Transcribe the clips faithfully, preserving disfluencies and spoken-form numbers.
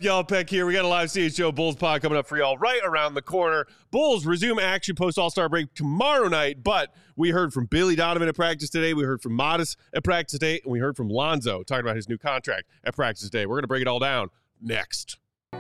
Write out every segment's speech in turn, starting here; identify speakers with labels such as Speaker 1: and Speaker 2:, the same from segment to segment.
Speaker 1: Y'all, Peck here. We got a live C H G O Bulls pod coming up for y'all right around the corner. Bulls resume action post All-Star break tomorrow night, but we heard from Billy Donovan at practice today. We heard from Modest at practice today, and we heard from Lonzo talking about his new contract at practice today. We're going to break it all down next.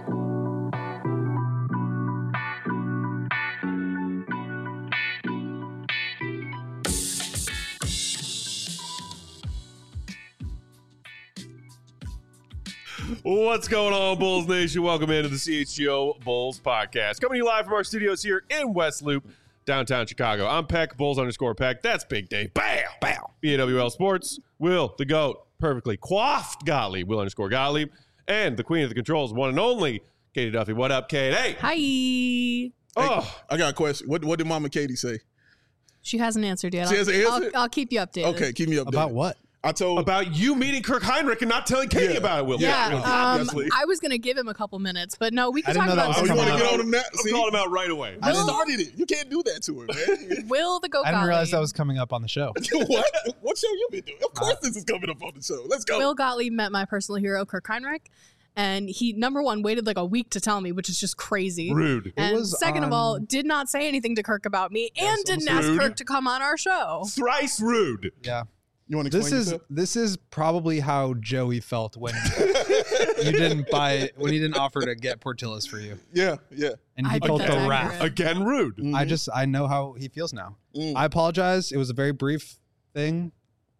Speaker 1: What's going on, Bulls Nation? Welcome into the C H G O Bulls podcast. Coming to you live from our studios here in West Loop, downtown Chicago. I'm Peck, Bulls underscore Peck. That's Big Dave. Bam! Bam! B A W L Sports. Will, the GOAT, perfectly coiffed Gottlieb, Will underscore Gottlieb. And the queen of the controls, one and only, Katie Duffy. What up, Kate? Hey!
Speaker 2: Hi!
Speaker 1: Oh,
Speaker 3: Hey, I got a question. What what did Mama Katie say?
Speaker 2: She hasn't answered yet.
Speaker 3: She
Speaker 2: I'll,
Speaker 3: hasn't answered?
Speaker 2: I'll, I'll keep you updated.
Speaker 3: Okay, keep me updated.
Speaker 4: About what?
Speaker 3: I told
Speaker 1: about you meeting Kirk Heinrich and not telling Katie
Speaker 3: Yeah.
Speaker 1: about it, Will.
Speaker 2: Yeah,
Speaker 3: Yeah,
Speaker 2: um,
Speaker 3: obviously.
Speaker 2: I was going to give him a couple minutes, but no, we
Speaker 4: I
Speaker 2: can
Speaker 4: didn't
Speaker 2: talk
Speaker 4: know that
Speaker 2: about
Speaker 4: was
Speaker 3: Oh, you
Speaker 2: this.
Speaker 3: want to
Speaker 4: coming
Speaker 3: get on him now?
Speaker 1: I'm
Speaker 3: See,
Speaker 1: calling him out right away.
Speaker 3: I
Speaker 2: Will-
Speaker 3: started it. You can't do that to her, man.
Speaker 2: Will the Go
Speaker 4: I didn't realize that
Speaker 2: Gottlieb.
Speaker 4: was coming up on the show.
Speaker 3: What? What show you been doing? Of course this is coming up on the show. Let's go.
Speaker 2: Will Gottlieb met my personal hero, Kirk Heinrich, and he, number one, waited like a week to tell me, which is just crazy.
Speaker 1: Rude.
Speaker 2: And
Speaker 4: was
Speaker 2: second of all,
Speaker 4: on-
Speaker 2: did not say anything to Kirk about me, and
Speaker 4: Yes,
Speaker 2: didn't
Speaker 4: almost
Speaker 2: ask
Speaker 1: rude.
Speaker 2: Kirk to come on our show.
Speaker 1: Thrice rude.
Speaker 4: Yeah.
Speaker 3: You want to
Speaker 4: This
Speaker 3: explain
Speaker 4: is
Speaker 3: yourself?
Speaker 4: this is probably how Joey felt when you didn't buy when he didn't offer to get Portillo's for you,
Speaker 3: Yeah, yeah.
Speaker 4: and
Speaker 2: I
Speaker 4: he
Speaker 2: think
Speaker 4: felt
Speaker 2: that's
Speaker 4: the
Speaker 2: accurate.
Speaker 4: wrath.
Speaker 1: Again, rude.
Speaker 3: Mhm.
Speaker 4: I just I know how he feels now.
Speaker 3: Mm.
Speaker 4: I apologize. It was a very brief thing.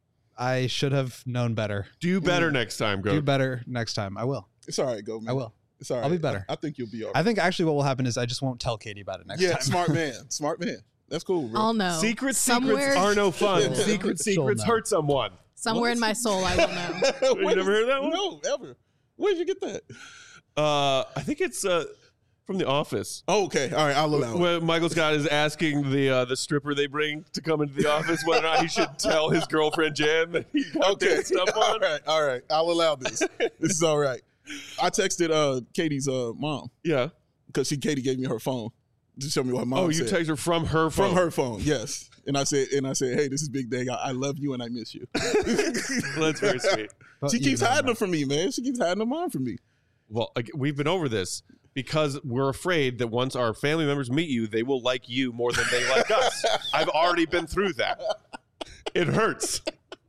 Speaker 4: I should have known better.
Speaker 1: Do better next time, go.
Speaker 4: Do better next time. I will.
Speaker 3: It's all right, go, man.
Speaker 4: I will.
Speaker 3: It's all right.
Speaker 4: I'll be better.
Speaker 3: I, I think you'll be all right.
Speaker 4: I think actually what will happen is I just won't tell Katie about it next
Speaker 3: yeah,
Speaker 4: time.
Speaker 3: smart man. Smart man. That's cool, bro.
Speaker 2: I'll know.
Speaker 1: Secret
Speaker 2: Somewhere-
Speaker 1: secrets are no fun.
Speaker 3: Yeah.
Speaker 1: Secret
Speaker 4: She'll
Speaker 1: secrets
Speaker 4: know.
Speaker 1: hurt someone.
Speaker 2: Somewhere in my soul, I will know.
Speaker 3: Where
Speaker 1: never heard that one?
Speaker 3: No, ever. Where did you get that?
Speaker 1: Uh, I think it's uh, from The Office.
Speaker 3: Oh, okay. All right, I'll allow it.
Speaker 1: When Michael Scott is asking the uh, the stripper they bring to come into the office whether or not he should tell his girlfriend Jan that he got
Speaker 3: Okay.
Speaker 1: that stuff
Speaker 3: all
Speaker 1: on.
Speaker 3: right, all right. I'll allow this. This is all right. I texted uh, Katie's uh, mom
Speaker 1: Yeah.
Speaker 3: because she Katie gave me her phone to show me what mom
Speaker 1: Oh, you
Speaker 3: said.
Speaker 1: text her from her phone.
Speaker 3: From her phone, yes. And I said, and I said, hey, this is Big Dang. I, I love you and I miss you.
Speaker 1: That's very sweet.
Speaker 4: But
Speaker 3: she
Speaker 4: you
Speaker 3: keeps
Speaker 4: don't
Speaker 3: hiding
Speaker 4: know.
Speaker 3: them from me, man. She keeps hiding them on from me.
Speaker 1: Well, ag- we've been over this because we're afraid that once our family members meet you, they will like you more than they like us. I've already been through that. It hurts.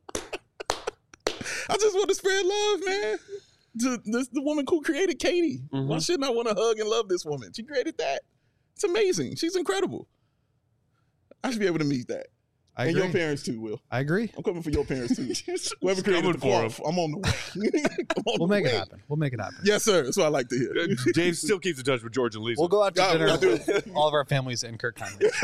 Speaker 3: I just want to spread love, man. To this, the woman who created Katie.
Speaker 1: Mhm.
Speaker 3: Why shouldn't I want to hug and love this woman? She created that. It's amazing. She's incredible. I should be able to meet that.
Speaker 4: I
Speaker 3: and
Speaker 4: agree.
Speaker 3: your parents too, Will.
Speaker 4: I agree.
Speaker 3: I'm coming for your parents too. Whoever
Speaker 1: She's
Speaker 3: created
Speaker 1: coming
Speaker 3: the
Speaker 1: for 'em.
Speaker 3: cloth, I'm on the way. I'm on
Speaker 4: We'll
Speaker 3: the
Speaker 4: make it
Speaker 3: way.
Speaker 4: happen. We'll make it happen.
Speaker 3: Yes, sir. That's what I like to hear.
Speaker 1: Uh, Dave still keeps in touch with George and Lisa.
Speaker 4: We'll go out to
Speaker 3: Yeah,
Speaker 4: dinner
Speaker 3: we'll do
Speaker 4: with all of our families in Kirk Heinrich.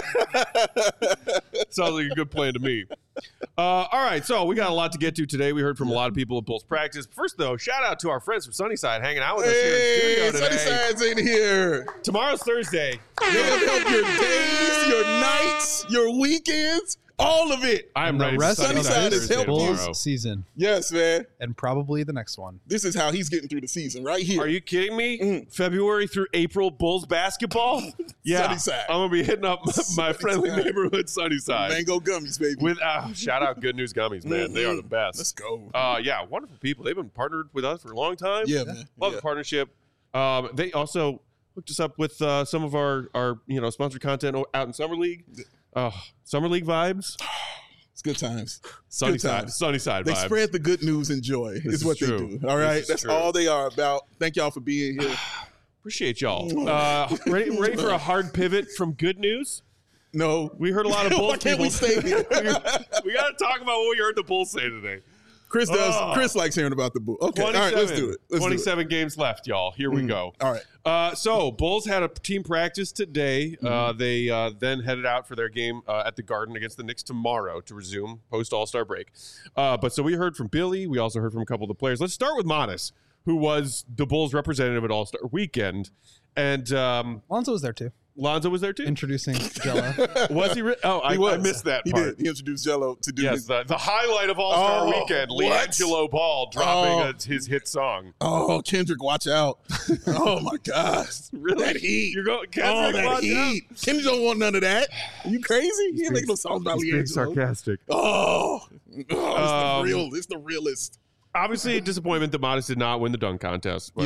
Speaker 1: Sounds like a good plan to me. Uh, all right, so we got a lot to get to today. We heard from a lot of people at Bulls practice. First, though, shout out to our friends from Sunnyside hanging out with us here in the
Speaker 3: Hey,
Speaker 1: studio today.
Speaker 3: Sunnyside's in here.
Speaker 1: Tomorrow's Thursday.
Speaker 3: They have helped your days, your nights, your weekends, all of it.
Speaker 1: I am
Speaker 4: And the
Speaker 1: ready for
Speaker 4: rest of
Speaker 3: Sunnyside
Speaker 1: Thursday
Speaker 3: is helping you.
Speaker 1: tomorrow.
Speaker 4: Bulls season
Speaker 3: Yes, man.
Speaker 4: and probably the next one.
Speaker 3: This is how he's getting through the season right here.
Speaker 1: Are you kidding me?
Speaker 3: Mm.
Speaker 1: February through April, Bulls basketball? Yeah.
Speaker 3: Sunnyside.
Speaker 1: I'm going to be hitting up my friendly
Speaker 3: Sunnyside.
Speaker 1: neighborhood Sunnyside.
Speaker 3: Mango gummies, baby.
Speaker 1: With uh, shout out Good News Gummies, man. They are the
Speaker 3: Let's
Speaker 1: best.
Speaker 3: go.
Speaker 1: Uh, yeah, wonderful people. They've been partnered with us for a long time.
Speaker 3: yeah, man.
Speaker 1: Love
Speaker 3: Yeah.
Speaker 1: the partnership. Um, they also hooked us up with uh, some of our, our you know sponsored content o- out in Summer League. Uh, Summer League vibes.
Speaker 3: It's good times.
Speaker 1: Sunnyside.
Speaker 3: times.
Speaker 1: Sunnyside
Speaker 3: They
Speaker 1: vibes.
Speaker 3: sred the good news and joy
Speaker 1: This
Speaker 3: is
Speaker 1: is
Speaker 3: what
Speaker 1: true.
Speaker 3: they do. All
Speaker 1: This
Speaker 3: right?
Speaker 1: is
Speaker 3: That's
Speaker 1: true.
Speaker 3: all they are about. Thank y'all for being here.
Speaker 1: Appreciate y'all. Uh, ready, ready for a hard pivot from good news?
Speaker 3: No.
Speaker 1: We heard a lot of Bulls
Speaker 3: Why can't
Speaker 1: people.
Speaker 3: we stay here?
Speaker 1: we got to talk about what we heard the Bulls say today.
Speaker 3: Chris does.
Speaker 1: Oh.
Speaker 3: Chris likes hearing about the book. Okay. All right, let's do it. Let's
Speaker 1: twenty-seven games left, y'all. Here we
Speaker 3: Mm.
Speaker 1: go.
Speaker 3: do it. All right.
Speaker 1: Uh, so, Bulls had a team practice today.
Speaker 3: Mm-hmm.
Speaker 1: Uh, they uh, then headed out for their game uh, at the Garden against the Knicks tomorrow to resume post All-Star break. Uh, but so we heard from Billy. We also heard from a couple of the players. Let's start with Modest, who was the Bulls representative at All-Star Weekend. And um,
Speaker 4: Lonzo was there too,
Speaker 1: Lonzo was there too?
Speaker 4: introducing Jello.
Speaker 1: Was he? Re- oh, I,
Speaker 3: He was.
Speaker 1: I missed that
Speaker 3: He
Speaker 1: part.
Speaker 3: did. He introduced Jello to do
Speaker 1: Yes,
Speaker 3: his.
Speaker 1: the, the highlight of All-Star
Speaker 3: Oh,
Speaker 1: Weekend,
Speaker 3: what?
Speaker 1: LiAngelo Ball dropping
Speaker 3: Oh.
Speaker 1: a, his hit song.
Speaker 3: Oh, Kendrick, watch out. Oh, my gosh.
Speaker 1: Really?
Speaker 3: That heat.
Speaker 1: You're going,
Speaker 3: Oh,
Speaker 1: Kendrick,
Speaker 3: that
Speaker 1: watch out.
Speaker 3: heat. Kendrick don't want none of that. Are you crazy? He ain't making no songs about
Speaker 1: He's being
Speaker 3: LiAngelo.
Speaker 1: sarcastic.
Speaker 3: Oh, oh it's
Speaker 1: Um,
Speaker 3: the real. It's the realest.
Speaker 1: Obviously, a disappointment that Modest did not win the dunk contest. But
Speaker 3: Yeah.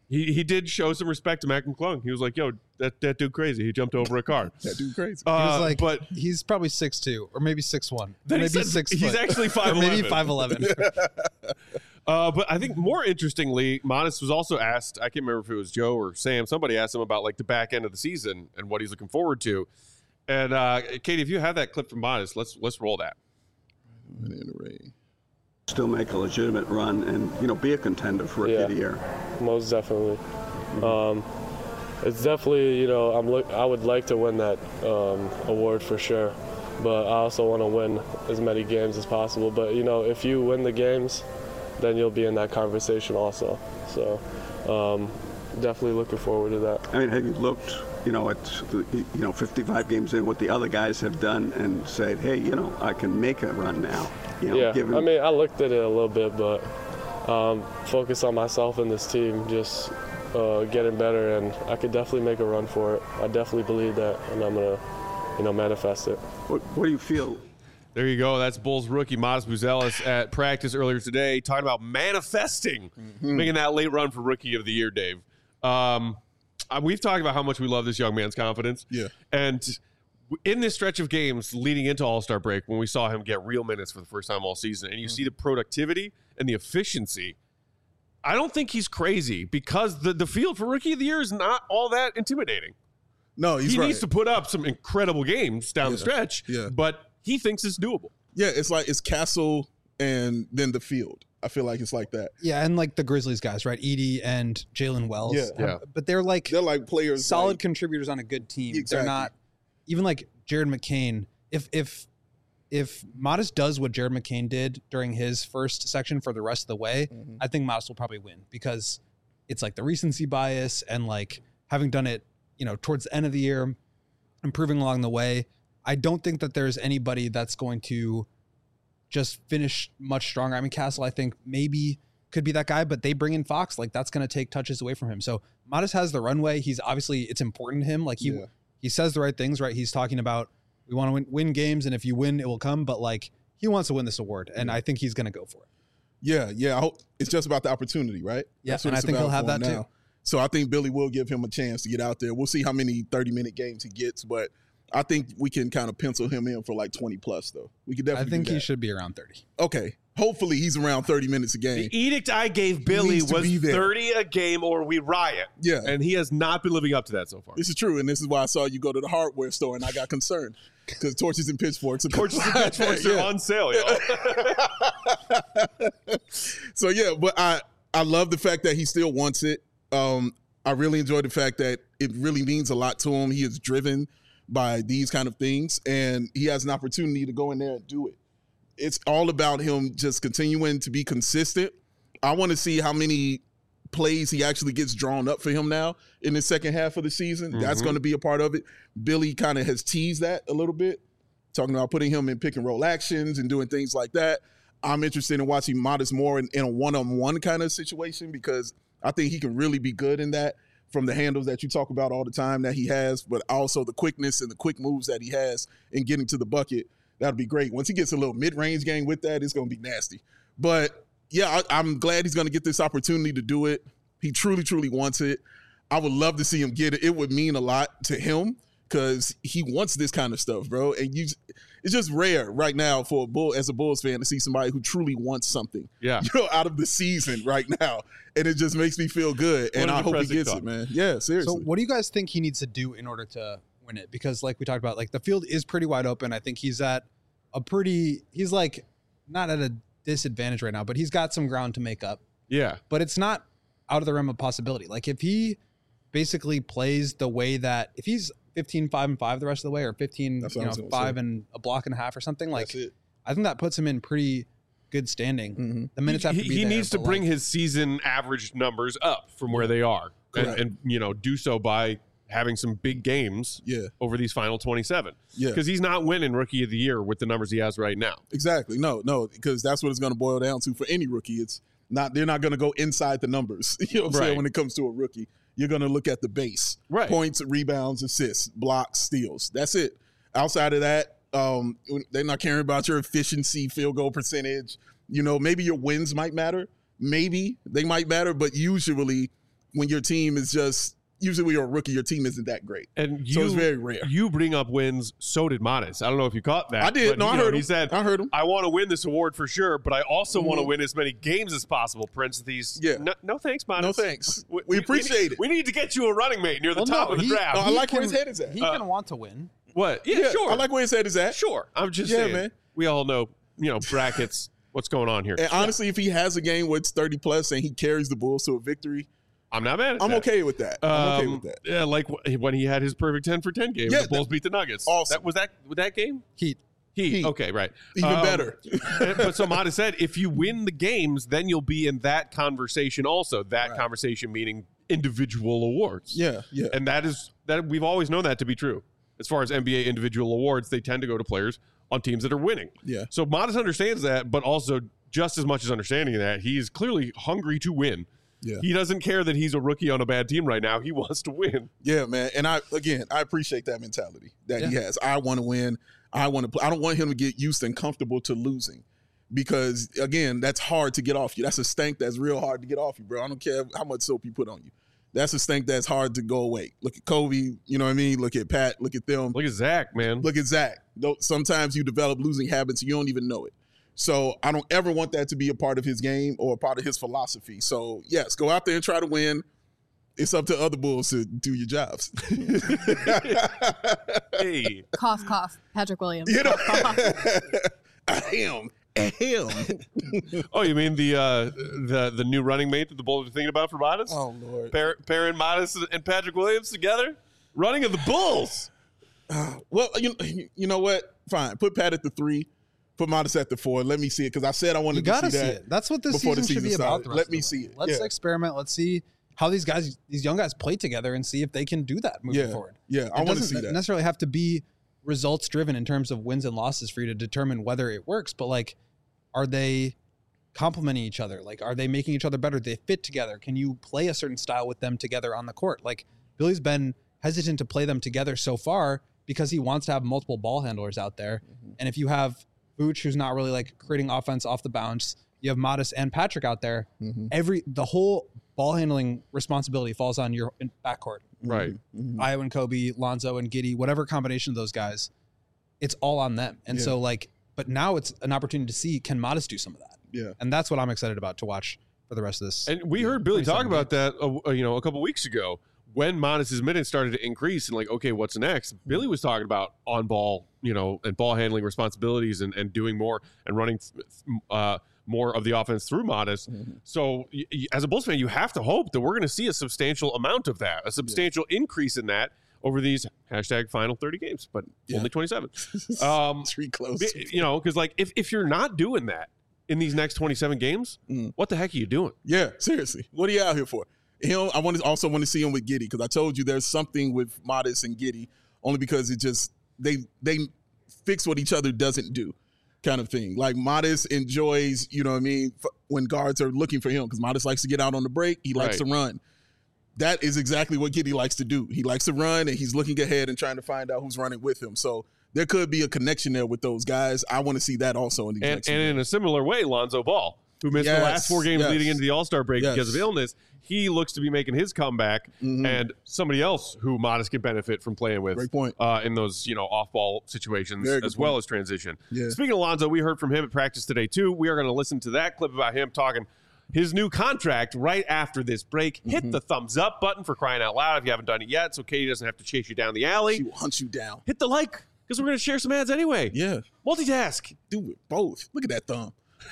Speaker 1: He he did show some respect to Mac McClung. He was like, "Yo, that, that dude crazy. He jumped over a car."
Speaker 3: That dude crazy.
Speaker 1: Uh,
Speaker 4: He was like,
Speaker 1: but
Speaker 4: he's probably six two or maybe six one,
Speaker 1: Then he
Speaker 4: maybe
Speaker 1: said
Speaker 4: six.
Speaker 1: he's
Speaker 4: foot.
Speaker 1: actually five
Speaker 4: or
Speaker 1: eleven.
Speaker 4: maybe five eleven.
Speaker 1: Uh, but I think more interestingly, Modest was also asked, I can't remember if it was Joe or Sam, somebody asked him about like the back end of the season and what he's looking forward to. And uh, Katie, if you have that clip from Modest, let's let's roll that.
Speaker 5: Still make a legitimate run and, you know, be a contender for Rookie
Speaker 6: Yeah.
Speaker 5: of the Year.
Speaker 6: Most definitely. Um, it's definitely, you know, I'm look. I would like to win that um, award for sure, but I also want to win as many games as possible. But you know, if you win the games, then you'll be in that conversation also. So, um, definitely looking forward to that.
Speaker 5: I mean, have you looked, you know, at the, you know, fifty-five games in, what the other guys have done, and said, hey, you know, I can make a run now. You know,
Speaker 6: Yeah,
Speaker 5: given,
Speaker 6: I mean, I looked at it a little bit, but um, focus on myself and this team, just uh, getting better, and I could definitely make a run for it. I definitely believe that, and I'm gonna, you know, manifest it.
Speaker 5: what, what do you feel?
Speaker 1: There you go. That's Bulls rookie Modest Buzelis at practice earlier today, talking about manifesting,
Speaker 3: Mm-hmm.
Speaker 1: making that late run for Rookie of the Year, Dave. Um, uh, we've talked about how much we love this young man's confidence.
Speaker 3: Yeah.
Speaker 1: And in this stretch of games leading into All-Star break, when we saw him get real minutes for the first time all season, and you see the productivity and the efficiency, I don't think he's crazy because the, the field for Rookie of the Year is not all that intimidating.
Speaker 3: No, he's
Speaker 1: he
Speaker 3: right.
Speaker 1: needs to put up some incredible games down the
Speaker 3: Yeah.
Speaker 1: stretch,
Speaker 3: Yeah.
Speaker 1: but he thinks it's doable.
Speaker 3: Yeah, it's like it's Castle and then the field. I feel like it's like that.
Speaker 4: Yeah, and like the Grizzlies guys, right? Edie and Jalen Wells.
Speaker 3: Yeah.
Speaker 4: have-
Speaker 1: Yeah.
Speaker 4: But they're like
Speaker 3: They're like players.
Speaker 4: solid
Speaker 3: like,
Speaker 4: contributors on a good team. They're
Speaker 3: Exactly.
Speaker 4: not even like Jared McCain. If if if Modest does what Jared McCain did during his first section for the rest of the way,
Speaker 3: Mhm.
Speaker 4: I think Modest will probably win because it's like the recency bias and like having done it, you know, towards the end of the year, improving along the way. I don't think that there's anybody that's going to just finish much stronger. I mean, Castle, I think maybe could be that guy, but they bring in Fox, like that's going to take touches away from him. So Modest has the runway. He's obviously, it's important to him. Like he,
Speaker 3: Yeah.
Speaker 4: he says the right things, right? He's talking about, we want to win, win games. And if you win, it will come. But like, he wants to win this award. And I think he's going to go for it.
Speaker 3: Yeah, yeah. I hope it's just about the opportunity, right?
Speaker 4: Yeah,
Speaker 3: That's what
Speaker 4: and I
Speaker 3: it's
Speaker 4: think he'll
Speaker 3: about
Speaker 4: have
Speaker 3: for him
Speaker 4: that too.
Speaker 3: now. So I think Billy will give him a chance to get out there. We'll see how many thirty-minute games he gets, but I think we can kind of pencil him in for like twenty plus, though. We could
Speaker 4: I
Speaker 3: definitely.
Speaker 4: think
Speaker 3: do
Speaker 4: he
Speaker 3: that.
Speaker 4: should be around thirty.
Speaker 3: Okay, hopefully he's around thirty minutes a game.
Speaker 1: The edict I gave Billy
Speaker 3: needs to
Speaker 1: was
Speaker 3: be there.
Speaker 1: thirty a game or we riot.
Speaker 3: Yeah.
Speaker 1: And he has not been living up to that so far.
Speaker 3: This is true, and this is why I saw you go to the hardware store, and I got concerned because torches and pitchforks. Are
Speaker 1: Torches and pitchforks are
Speaker 3: Yeah.
Speaker 1: on sale, yo.
Speaker 3: So yeah, but I I love the fact that he still wants it. Um, I really enjoy the fact that it really means a lot to him. He is driven by these kind of things, and he has an opportunity to go in there and do it. It's all about him just continuing to be consistent. I want to see how many plays he actually gets drawn up for him now in the second half of the season. That's
Speaker 1: Mhm.
Speaker 3: going to be a part of it. Billy kind of has teased that a little bit, talking about putting him in pick and roll actions and doing things like that. I'm interested in watching Modest more in, in a one-on-one kind of situation because I think he can really be good in that from the handles that you talk about all the time that he has, but also the quickness and the quick moves that he has in getting to the bucket. That'll be great. Once he gets a little mid-range game with that, it's going to be nasty. But yeah, I, I'm glad he's going to get this opportunity to do it. He truly, truly wants it. I would love to see him get it. It would mean a lot to him because he wants this kind of stuff, bro. And you, it's just rare right now for a Bull as a Bulls fan to see somebody who truly wants something,
Speaker 1: Yeah.
Speaker 3: you know, out of the season right now, and it just makes me feel good. And
Speaker 1: What a
Speaker 3: I hope he
Speaker 1: depressing
Speaker 3: gets
Speaker 1: thought.
Speaker 3: it, man. Yeah, seriously.
Speaker 4: So what do you guys think he needs to do in order to win it? Because like we talked about, like the field is pretty wide open. I think he's at a pretty, he's like not at a disadvantage right now, but he's got some ground to make up.
Speaker 1: Yeah.
Speaker 4: But it's not out of the realm of possibility. Like if he basically plays the way that, if he's fifteen, five, and five the rest of the way, or fifteen,
Speaker 3: That's what
Speaker 4: you
Speaker 3: I was
Speaker 4: know,
Speaker 3: gonna
Speaker 4: five
Speaker 3: say.
Speaker 4: and a block and a half or something, like
Speaker 3: That's it.
Speaker 4: I think that puts him in pretty good standing.
Speaker 3: Mm-hmm.
Speaker 4: The minutes
Speaker 1: he
Speaker 4: have to be
Speaker 1: he
Speaker 4: there,
Speaker 1: needs to
Speaker 4: but,
Speaker 1: bring
Speaker 4: like,
Speaker 1: his season average numbers up from where they are. And,
Speaker 3: Correct.
Speaker 1: and, you know, do so by having some big games
Speaker 3: Yeah,
Speaker 1: over these final twenty-seven.
Speaker 3: yeah.
Speaker 1: Because he's not winning Rookie of the Year with the numbers he has right now.
Speaker 3: Exactly. No, no, because that's what it's going to boil down to for any rookie. It's not, they're not going to go inside the numbers, you know what I'm
Speaker 1: Right.
Speaker 3: saying, when it comes to a rookie. You're going to look at the base.
Speaker 1: Right.
Speaker 3: Points, rebounds, assists, blocks, steals. That's it. Outside of that, um, they're not caring about your efficiency, field goal percentage. You know, maybe your wins might matter. Maybe they might matter, but usually when your team is just usually when you're a rookie, your team isn't that great.
Speaker 1: And you,
Speaker 3: so it's very rare.
Speaker 1: You bring up wins. So did Modest. I don't know if you caught that.
Speaker 3: I did.
Speaker 1: But,
Speaker 3: No, I
Speaker 1: know,
Speaker 3: heard
Speaker 1: He
Speaker 3: him.
Speaker 1: said,
Speaker 3: I heard him.
Speaker 1: I want to win this award for sure, but I also
Speaker 3: Mm-hmm.
Speaker 1: want to win as many games as possible. Parentheses.
Speaker 3: Yeah.
Speaker 1: No, no thanks, Modest.
Speaker 3: No thanks. We appreciate
Speaker 1: need,
Speaker 3: it.
Speaker 1: We need to get you a running mate near the
Speaker 4: Well,
Speaker 1: top
Speaker 4: no,
Speaker 1: of the
Speaker 4: he-
Speaker 1: draft.
Speaker 3: No, I
Speaker 4: He
Speaker 3: like where
Speaker 4: can-
Speaker 3: his head is at.
Speaker 4: He
Speaker 1: Uh,
Speaker 4: can want to win.
Speaker 1: What? Yeah, sure.
Speaker 3: I like where his head is at.
Speaker 1: Sure. I'm just
Speaker 3: Yeah,
Speaker 1: saying.
Speaker 3: man.
Speaker 1: We all know, you know, brackets. What's going on here?
Speaker 3: And honestly, if he has a game where it's thirty plus and he carries the Bulls to a victory,
Speaker 1: I'm not mad at
Speaker 3: I'm
Speaker 1: that.
Speaker 3: okay with that. I'm okay
Speaker 1: Um,
Speaker 3: with that.
Speaker 1: Yeah, like wh- when he had his perfect ten for ten game.
Speaker 3: Yeah,
Speaker 1: the Bulls beat the Nuggets.
Speaker 3: awesome.
Speaker 1: That was that. Was that game?
Speaker 4: Heat.
Speaker 1: Heat.
Speaker 3: Heat.
Speaker 1: Okay, right.
Speaker 3: Even
Speaker 1: Um,
Speaker 3: better.
Speaker 1: but so Modest said, if you win the games, then you'll be in that conversation also. That
Speaker 3: Right.
Speaker 1: conversation meaning individual awards.
Speaker 3: Yeah, yeah.
Speaker 1: And that is that we've always known that to be true. As far as N B A individual awards, they tend to go to players on teams that are winning.
Speaker 3: Yeah.
Speaker 1: So Modest understands that, but also just as much as understanding that, he is clearly hungry to win.
Speaker 3: Yeah.
Speaker 1: He doesn't care that he's a rookie on a bad team right now. He wants to win.
Speaker 3: Yeah, man. And I again, I appreciate that mentality that he has. I want to win. I want to play. I don't want him to get used and comfortable to losing. Because again, that's hard to get off you. That's a stank that's real hard to get off you, bro. I don't care how much soap you put on you. That's a stank that's hard to go away. Look at Kobe, you know what I mean? Look at Pat, look at them.
Speaker 1: Look at Zach, man.
Speaker 3: Look at Zach. Though sometimes you develop losing habits and you don't even know it. So I don't ever want that to be a part of his game or a part of his philosophy. So yes, go out there and try to win. It's up to other Bulls to do your jobs.
Speaker 1: Hey.
Speaker 2: Cough, cough. Patrick Williams.
Speaker 3: You know, ahem, ahem.
Speaker 1: Oh, you mean the uh, the the new running mate that the Bulls are thinking about for Modest?
Speaker 3: Oh Lord.
Speaker 1: Par- Perrin Modest and Patrick Williams together, running of the Bulls.
Speaker 3: Well, you you know what? Fine. Put Pat at the three. Put Modest at the four. Let me see it because I said I wanted
Speaker 4: You
Speaker 3: to
Speaker 4: gotta
Speaker 3: see
Speaker 4: see
Speaker 3: that.
Speaker 4: it. That's what this
Speaker 3: before the
Speaker 4: season should be
Speaker 3: season
Speaker 4: about.
Speaker 3: started.
Speaker 4: the rest
Speaker 3: Let
Speaker 4: of
Speaker 3: me
Speaker 4: the
Speaker 3: see
Speaker 4: way.
Speaker 3: it.
Speaker 4: Let's
Speaker 3: Yeah.
Speaker 4: experiment. Let's see how these guys, these young guys, play together and see if they can do that moving
Speaker 3: Yeah,
Speaker 4: forward.
Speaker 3: yeah, I
Speaker 4: It
Speaker 3: wanna
Speaker 4: doesn't
Speaker 3: see that.
Speaker 4: necessarily have to be results driven in terms of wins and losses for you to determine whether it works. But like, are they complementing each other? Like, are they making each other better? Do they fit together? Can you play a certain style with them together on the court? Like, Billy's been hesitant to play them together so far because he wants to have multiple ball handlers out there.
Speaker 3: Mm-hmm.
Speaker 4: And if you have Vooch, who's not really like creating offense off the bounce, you have Modest and Patrick out there.
Speaker 3: Mm-hmm.
Speaker 4: Every the whole ball handling responsibility falls on your backcourt.
Speaker 1: Right.
Speaker 3: Mm-hmm.
Speaker 4: Io and Kobe, Lonzo and Giddey, whatever combination of those guys, it's all on them. And
Speaker 3: Yeah.
Speaker 4: so like, but now it's an opportunity to see, can Modest do some of that?
Speaker 3: Yeah.
Speaker 4: And that's what I'm excited about to watch for the rest of this.
Speaker 1: And we heard Billy talk
Speaker 4: twenty-seven
Speaker 1: about that, uh, you know, a couple weeks ago when Modest's minutes started to increase and like, okay, what's next? Billy was talking about on ball, you know, and ball handling responsibilities and, and doing more and running uh, more of the offense through Modest.
Speaker 3: Mm-hmm.
Speaker 1: So y- y- as a Bulls fan, you have to hope that we're going to see a substantial amount of that, a substantial increase in that over these hashtag final thirty games, but
Speaker 3: Yeah.
Speaker 1: only twenty-seven. Um,
Speaker 3: Tree close.
Speaker 1: Bi- you know, because like if, if you're not doing that in these next twenty-seven games,
Speaker 3: Mm.
Speaker 1: what the heck are you doing?
Speaker 3: Yeah, seriously. What are you out here for? Him, I want to also want to see him with Giddey because I told you there's something with Modest and Giddey only because it just they they fix what each other doesn't do, kind of thing. Like Modest enjoys, you know what I mean, f- when guards are looking for him because Modest likes to get out on the break. He likes
Speaker 1: Right.
Speaker 3: to run. That is exactly what Giddey likes to do. He likes to run and he's looking ahead and trying to find out who's running with him. So there could be a connection there with those guys. I want to see that also in these
Speaker 1: And,
Speaker 3: next
Speaker 1: and
Speaker 3: few
Speaker 1: in a similar way, Lonzo Ball, who missed
Speaker 3: Yes,
Speaker 1: the last four games
Speaker 3: yes.
Speaker 1: leading into the All-Star break
Speaker 3: Yes.
Speaker 1: because of illness, he looks to be making his comeback.
Speaker 3: Mhm.
Speaker 1: And somebody else who Modest can benefit from playing with
Speaker 3: Great point.
Speaker 1: Uh, in those, you know, off-ball situations
Speaker 3: Very good
Speaker 1: as well
Speaker 3: point.
Speaker 1: as transition.
Speaker 3: Yeah.
Speaker 1: Speaking of Lonzo, we heard from him at practice today, too. We are going to listen to that clip about him talking his new contract right after this break.
Speaker 3: Mm-hmm.
Speaker 1: Hit the thumbs up button for crying out loud if you haven't done it yet, so Katie doesn't have to chase you down the alley.
Speaker 3: She will hunt you down.
Speaker 1: Hit the like, because we're going to share some ads anyway.
Speaker 3: Yeah.
Speaker 1: Multitask.
Speaker 3: Do it both. Look at that thumb.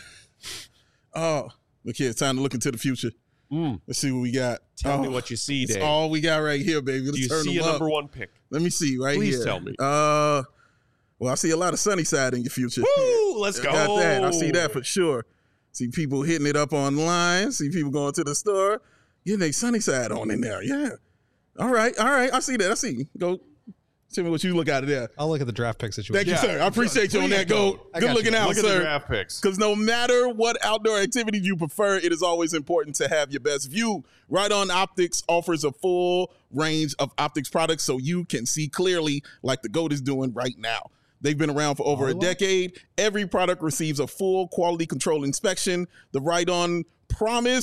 Speaker 3: Oh, look here. It's time to look into the future.
Speaker 1: Mm.
Speaker 3: Let's see what we got.
Speaker 1: Tell me
Speaker 3: Oh,
Speaker 1: what you see,
Speaker 3: It's
Speaker 1: Dave.
Speaker 3: all we got right here, baby. Let's
Speaker 1: Do you
Speaker 3: turn
Speaker 1: see a
Speaker 3: them up.
Speaker 1: number one pick?
Speaker 3: Let me see right
Speaker 1: Please
Speaker 3: here.
Speaker 1: tell me.
Speaker 3: Uh, well, I see a lot of sunny side in your future.
Speaker 1: Woo! Let's
Speaker 3: I
Speaker 1: go.
Speaker 3: got that. I see that for sure. See people hitting it up online. See people going to the store. Yeah, they sunny side on in there. Yeah. All right. All right. I see that. I see. Go. Tell me what you look out of there.
Speaker 4: I'll look at the draft pick situation.
Speaker 3: Thank you,
Speaker 1: Yeah.
Speaker 3: sir. I appreciate you on
Speaker 1: Please
Speaker 3: that. Go.
Speaker 1: go.
Speaker 4: I
Speaker 3: Good
Speaker 4: got
Speaker 3: looking
Speaker 4: you.
Speaker 3: out,
Speaker 1: Look at
Speaker 3: sir.
Speaker 1: the draft picks.
Speaker 3: Because no matter what outdoor activity you prefer, it is always important to have your best view. Right On Optics offers a full range of optics products so you can see clearly like the GOAT is doing right now. They've been around for over
Speaker 4: Oh,
Speaker 3: a
Speaker 4: wow.
Speaker 3: decade. Every product receives a full quality control inspection. The Right On Promise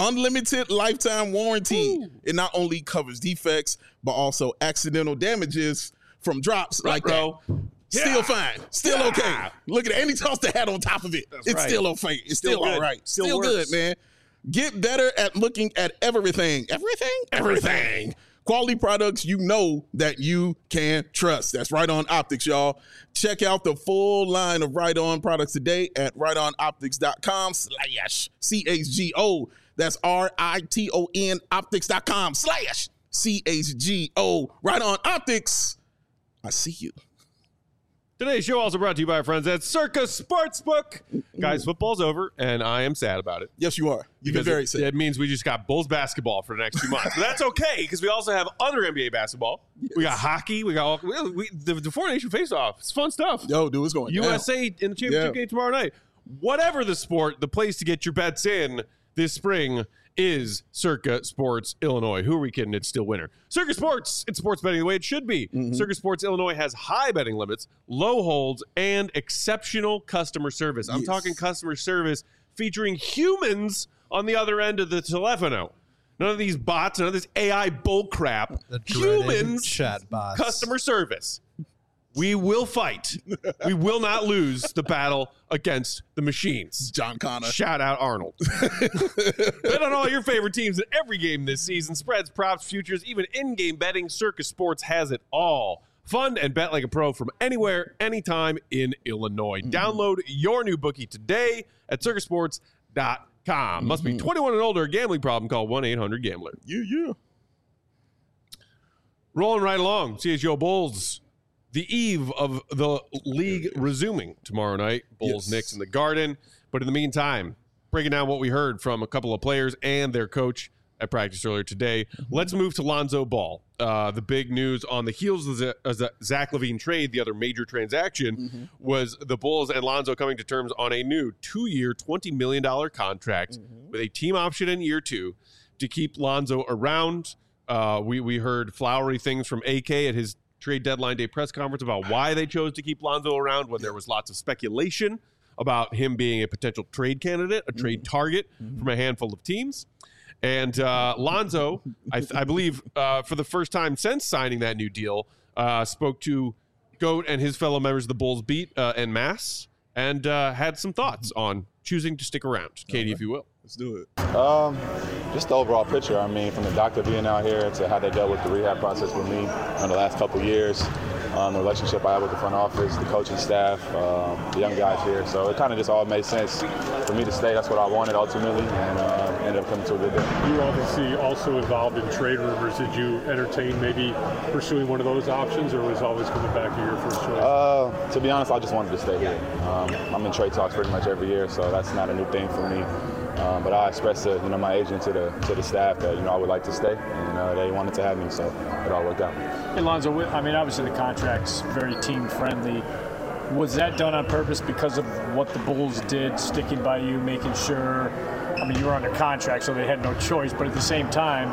Speaker 3: unlimited lifetime warranty. Ooh. It not only covers defects, but also accidental damages from drops right, like bro. that. Yeah. Still fine. Still yeah. okay. Look at it. And he tossed the hat on top of it. That's it's right. still okay. It's still, still all right. Still, still good, man. Get better at looking at everything. Everything? Everything. Quality products you know that you can trust. That's Right On Optics, y'all. Check out the full line of Right On products today at right on optics dot com slash C H G O. That's R I T O N optics dot com slash C H G O. Right On Optics. I see you.
Speaker 1: Today's show also brought to you by our friends at Circa Sportsbook. Guys, football's over, and I am sad about it.
Speaker 3: Yes, you are. You've been very sad.
Speaker 1: It means we just got Bulls basketball for the next two months. But that's okay, because we also have other N B A basketball. Yes. We got hockey. We got all, we, we, the, the Four Nation Face-Off. It's fun stuff.
Speaker 3: Yo, dude, it's going
Speaker 1: U S A down. In the championship yeah. game tomorrow night. Whatever the sport, the place to get your bets in this spring is Circa Sports Illinois. Who are we kidding? It's still winter. Circa Sports, it's sports betting the way it should be. Mm-hmm. Circa Sports Illinois has high betting limits, low holds, and exceptional customer service. I'm yes. talking customer service featuring humans on the other end of the telefono. None of these bots, none of this A I bull crap. Humans,
Speaker 4: chat bots.
Speaker 1: Customer service. We will fight. We will not lose the battle against the machines.
Speaker 3: John Connor.
Speaker 1: Shout out Arnold. Bet on all your favorite teams in every game this season. Spreads, props, futures, even in-game betting. Circa Sports has it all. Fund and bet like a pro from anywhere, anytime in Illinois. Mm-hmm. Download your new bookie today at circa sports dot com. Mm-hmm. Must be twenty-one and older. A gambling problem, call one eight hundred gambler.
Speaker 3: Yeah, yeah.
Speaker 1: Rolling right along. C H G O Bulls. The eve of the league resuming tomorrow night. Bulls, yes. Knicks in the Garden. But in the meantime, breaking down what we heard from a couple of players and their coach at practice earlier today, mm-hmm. let's move to Lonzo Ball. Uh, the big news on the heels of the, of the Zach LaVine trade, the other major transaction, mm-hmm. was the Bulls and Lonzo coming to terms on a new two-year, twenty million dollars contract mm-hmm. with a team option in year two to keep Lonzo around. Uh, we, we heard flowery things from A K at his trade deadline day press conference about why they chose to keep Lonzo around when there was lots of speculation about him being a potential trade candidate, a trade target mm-hmm. from a handful of teams. And uh, Lonzo, I, I believe, uh, for the first time since signing that new deal, uh, spoke to Goat and his fellow members of the Bulls beat uh, en masse and uh, had some thoughts on choosing to stick around. Katie, right. if you will.
Speaker 3: Let's do it.
Speaker 7: Um, just the overall picture. I mean, from the doctor being out here to how they dealt with the rehab process with me in the last couple of years, um, the relationship I have with the front office, the coaching staff, um, the young guys here. So it kind of just all made sense for me to stay. That's what I wanted ultimately, and uh, ended up coming to a good deal.
Speaker 8: You obviously also involved in trade rumors. Did you entertain maybe pursuing one of those options, or was always coming back to your first choice?
Speaker 7: Uh, to be honest, I just wanted to stay here. Um, I'm in trade talks pretty much every year, so that's not a new thing for me. Um, but I expressed to you know my agent to the to the staff that you know I would like to stay, and uh, they wanted to have me, so it all worked out.
Speaker 9: Hey Lonzo, I mean obviously the contract's very team friendly. Was that done on purpose because of what the Bulls did, sticking by you, making sure? I mean you were under contract, so they had no choice. But at the same time,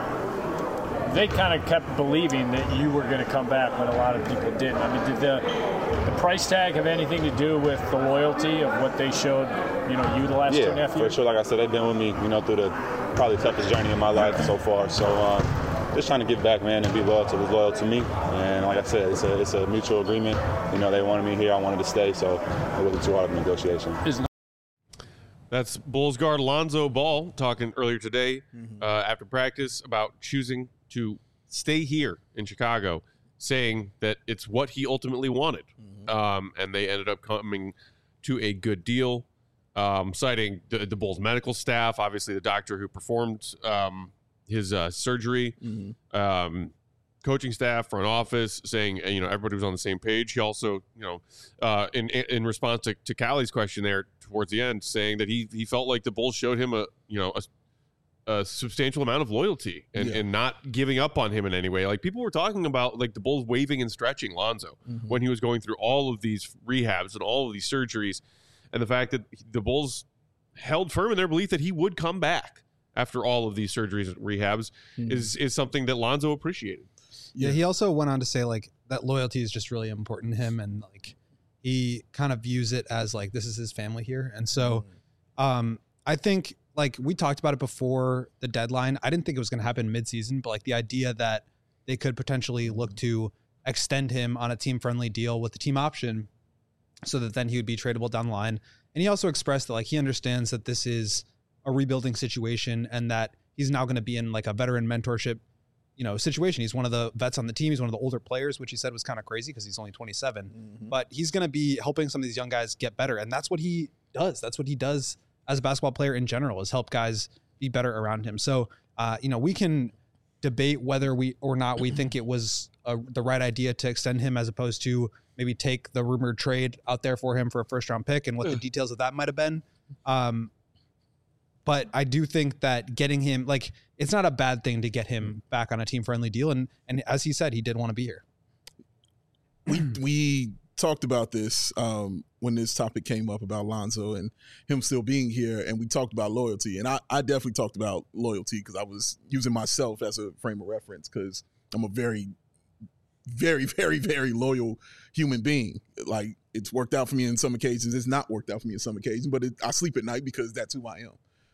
Speaker 9: they kind of kept believing that you were going to come back when a lot of people didn't. I mean, did the the price tag have anything to do with the loyalty of what they showed, you know, you the last
Speaker 7: yeah,
Speaker 9: two and a half years?
Speaker 7: Yeah, for sure. Like I said, they've been with me, you know, through the probably toughest journey in my life so far. So uh, just trying to give back, man, and be loyal to who's loyal to me. And like I said, it's a it's a mutual agreement. You know, they wanted me here, I wanted to stay, so it wasn't too hard of a negotiation.
Speaker 1: That's Bulls guard Lonzo Ball talking earlier today mm-hmm. uh, after practice about choosing to stay here in Chicago, saying that it's what he ultimately wanted. Mm-hmm. Um, and they ended up coming to a good deal, um, citing the, the Bulls medical staff, obviously the doctor who performed um, his uh, surgery, mm-hmm. um, coaching staff, front office, saying, you know, everybody was on the same page. He also, you know, uh, in in response to, to Callie's question there towards the end, saying that he he felt like the Bulls showed him a, you know, a, a substantial amount of loyalty and, yeah. and not giving up on him in any way. Like people were talking about like the Bulls waving and stretching Lonzo mm-hmm. when he was going through all of these rehabs and all of these surgeries, and the fact that the Bulls held firm in their belief that he would come back after all of these surgeries and rehabs mm-hmm. is is something that Lonzo appreciated.
Speaker 4: Yeah, he also went on to say like that loyalty is just really important to him, and like he kind of views it as like this is his family here. And so mm-hmm. um I think like we talked about it before the deadline. I didn't think it was going to happen midseason, but like the idea that they could potentially look to extend him on a team-friendly deal with the team option so that then he would be tradable down the line. And he also expressed that like he understands that this is a rebuilding situation and that he's now going to be in like a veteran mentorship, you know, situation. He's one of the vets on the team. He's one of the older players, which he said was kind of crazy because he's only twenty-seven, mm-hmm. but he's going to be helping some of these young guys get better. And that's what he does. That's what he does as a basketball player in general, is help guys be better around him. So, uh, you know, we can debate whether we or not we think it was a, the right idea to extend him as opposed to maybe take the rumored trade out there for him for a first round pick and what the details of that might have been. Um, but I do think that getting him, like, it's not a bad thing to get him back on a team friendly deal. And, and as he said, he did want to be here.
Speaker 3: We, we talked about this um, when this topic came up about Lonzo and him still being here. And we talked about loyalty. And I, I definitely talked about loyalty because I was using myself as a frame of reference because I'm a very, very, very, very loyal human being. Like, it's worked out for me in some occasions. It's not worked out for me in some occasions, but it, I sleep at night because that's who I am.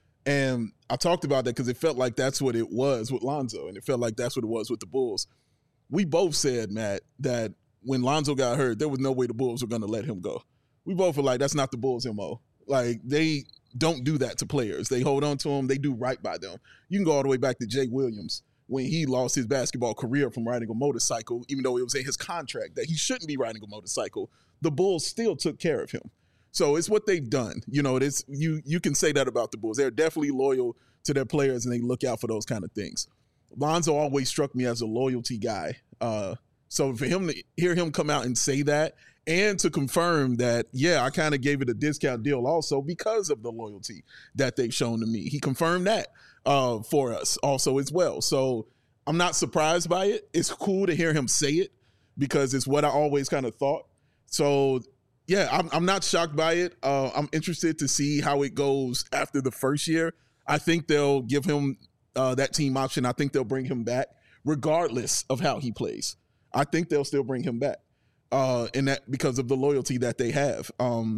Speaker 3: And I talked about that because it felt like that's what it was with Lonzo, and it felt like that's what it was with the Bulls. We both said, Matt, that when Lonzo got hurt, there was no way the Bulls were going to let him go. We both were like, that's not the Bulls' M O. Like, they don't do that to players. They hold on to them. They do right by them. You can go all the way back to Jay Williams when he lost his basketball career from riding a motorcycle, even though it was in his contract that he shouldn't be riding a motorcycle. The Bulls still took care of him. So it's what they've done. You know, it's you you can say that about the Bulls. They're definitely loyal to their players, and they look out for those kind of things. Lonzo always struck me as a loyalty guy. Uh, so for him to hear him come out and say that, and to confirm that, yeah, I kind of gave it a discount deal also because of the loyalty that they've shown to me. He confirmed that uh, for us also as well. So I'm not surprised by it. It's cool to hear him say it because it's what I always kind of thought. So yeah, I'm, I'm not shocked by it. Uh, I'm interested to see how it goes after the first year. I think they'll give him uh, that team option. I think they'll bring him back regardless of how he plays. I think they'll still bring him back, uh, and that because of the loyalty that they have. Um,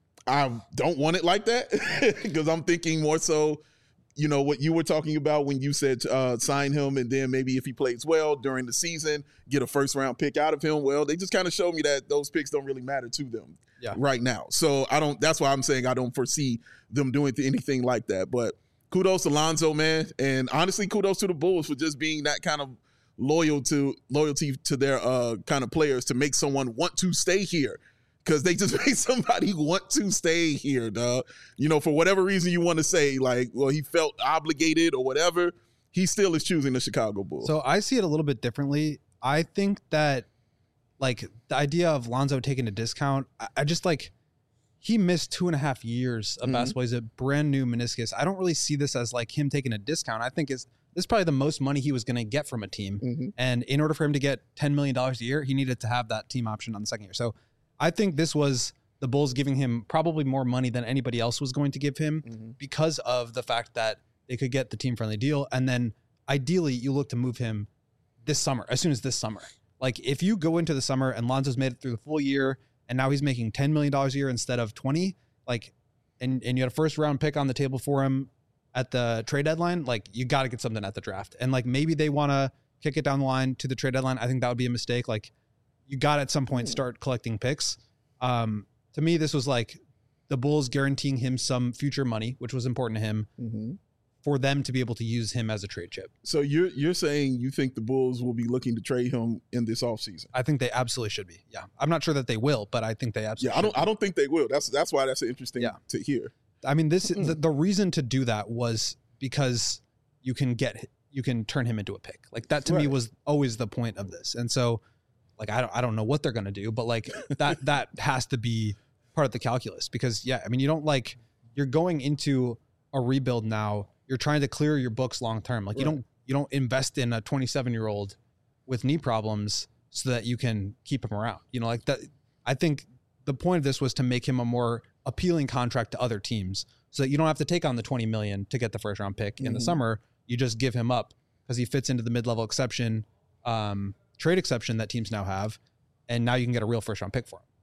Speaker 3: I don't want it like that because I'm thinking more so, you know, what you were talking about when you said uh, sign him and then maybe if he plays well during the season, get a first round pick out of him. Well, they just kind of showed me that those picks don't really matter to them yeah. right now. So I don't, that's why I'm saying I don't foresee them doing anything like that. But kudos to Lonzo, man. And honestly, kudos to the Bulls for just being that kind of loyal to loyalty to their uh, kind of players to make someone want to stay here. Because they just made somebody want to stay here, dog. You know, for whatever reason you want to say, like, well, he felt obligated or whatever, he still is choosing the Chicago Bulls.
Speaker 4: So I see it a little bit differently. I think that, like, the idea of Lonzo taking a discount, I, I just, like, he missed two and a half years of mm-hmm. basketball. He's a brand new meniscus. I don't really see this as, like, him taking a discount. I think it's, this is probably the most money he was going to get from a team. Mm-hmm. And in order for him to get ten million dollars a year, he needed to have that team option on the second year. So I think this was the Bulls giving him probably more money than anybody else was going to give him mm-hmm. because of the fact that they could get the team-friendly deal. And then ideally, you look to move him this summer, as soon as this summer. Like, if you go into the summer and Lonzo's made it through the full year and now he's making ten million dollars a year instead of twenty, like, and, and you had a first-round pick on the table for him at the trade deadline, like, you got to get something at the draft. And, like, maybe they want to kick it down the line to the trade deadline. I think that would be a mistake. Like, you got to at some point start collecting picks. Um, to me, this was like the Bulls guaranteeing him some future money, which was important to him, mm-hmm. for them to be able to use him as a trade chip.
Speaker 3: So you're you're saying you think the Bulls will be looking to trade him in this offseason?
Speaker 4: I think they absolutely should be. Yeah, I'm not sure that they will, but I think they absolutely.
Speaker 3: Yeah, I don't.
Speaker 4: Should be.
Speaker 3: I don't think they will. That's that's why that's interesting yeah. to hear.
Speaker 4: I mean, this mm-hmm. the, the reason to do that was because you can get you can turn him into a pick. Like, that to right. me was always the point of this, and so. Like, I don't, I don't know what they're going to do, but like that, that has to be part of the calculus because yeah, I mean, you don't like, you're going into a rebuild now. You're trying to clear your books long-term. Like right. you don't, you don't invest in a twenty-seven year old with knee problems so that you can keep him around, you know, like that. I think the point of this was to make him a more appealing contract to other teams so that you don't have to take on the twenty million to get the first round pick mm-hmm. in the summer. You just give him up because he fits into the mid-level exception, um, trade exception that teams now have, and now you can get a real first round pick for him.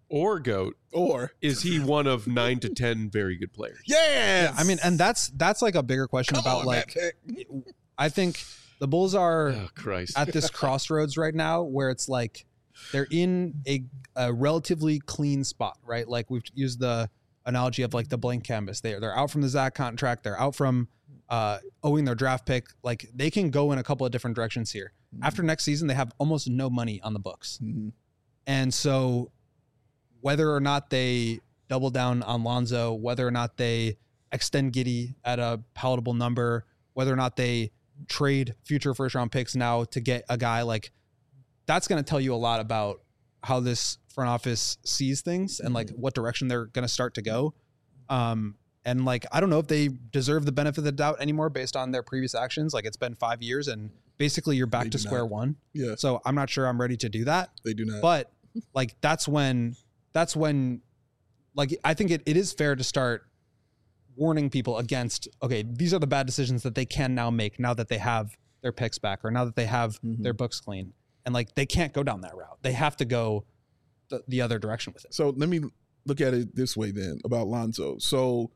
Speaker 1: or GOAT,
Speaker 3: or
Speaker 1: is he one of nine to ten very good players?
Speaker 3: Yes.
Speaker 4: Yeah, I mean, and that's that's like a bigger question
Speaker 3: Come
Speaker 4: about
Speaker 3: on,
Speaker 4: like,
Speaker 3: Matt Peck.
Speaker 4: I think the Bulls are
Speaker 1: Oh, Christ.
Speaker 4: at this crossroads right now where it's like they're in a, a relatively clean spot, right? Like we've used the analogy of like the blank canvas. They're they're out from the Zach contract. They're out from uh, owing their draft pick. Like they can go in a couple of different directions here. Mm-hmm. After next season, they have almost no money on the books,
Speaker 3: Mm-hmm.
Speaker 4: and so whether or not they double down on Lonzo, whether or not they extend Giddey at a palatable number, whether or not they trade future first round picks now to get a guy like that's going to tell you a lot about how this front office sees things and like what direction they're going to start to go. Um, and like, I don't know if they deserve the benefit of the doubt anymore based on their previous actions. Like it's been five years and basically you're back
Speaker 3: They
Speaker 4: to
Speaker 3: do
Speaker 4: square
Speaker 3: not.
Speaker 4: one.
Speaker 3: Yeah.
Speaker 4: So I'm not sure I'm ready to do that,
Speaker 3: They do not.
Speaker 4: but like, that's when, that's when like, I think it, it is fair to start warning people against, okay, these are the bad decisions that they can now make now that they have their picks back or now that they have
Speaker 3: Mhm.
Speaker 4: their books clean. And like, they can't go down that route. They have to go the, the other direction with it.
Speaker 3: So let me look at it this way then about Lonzo. So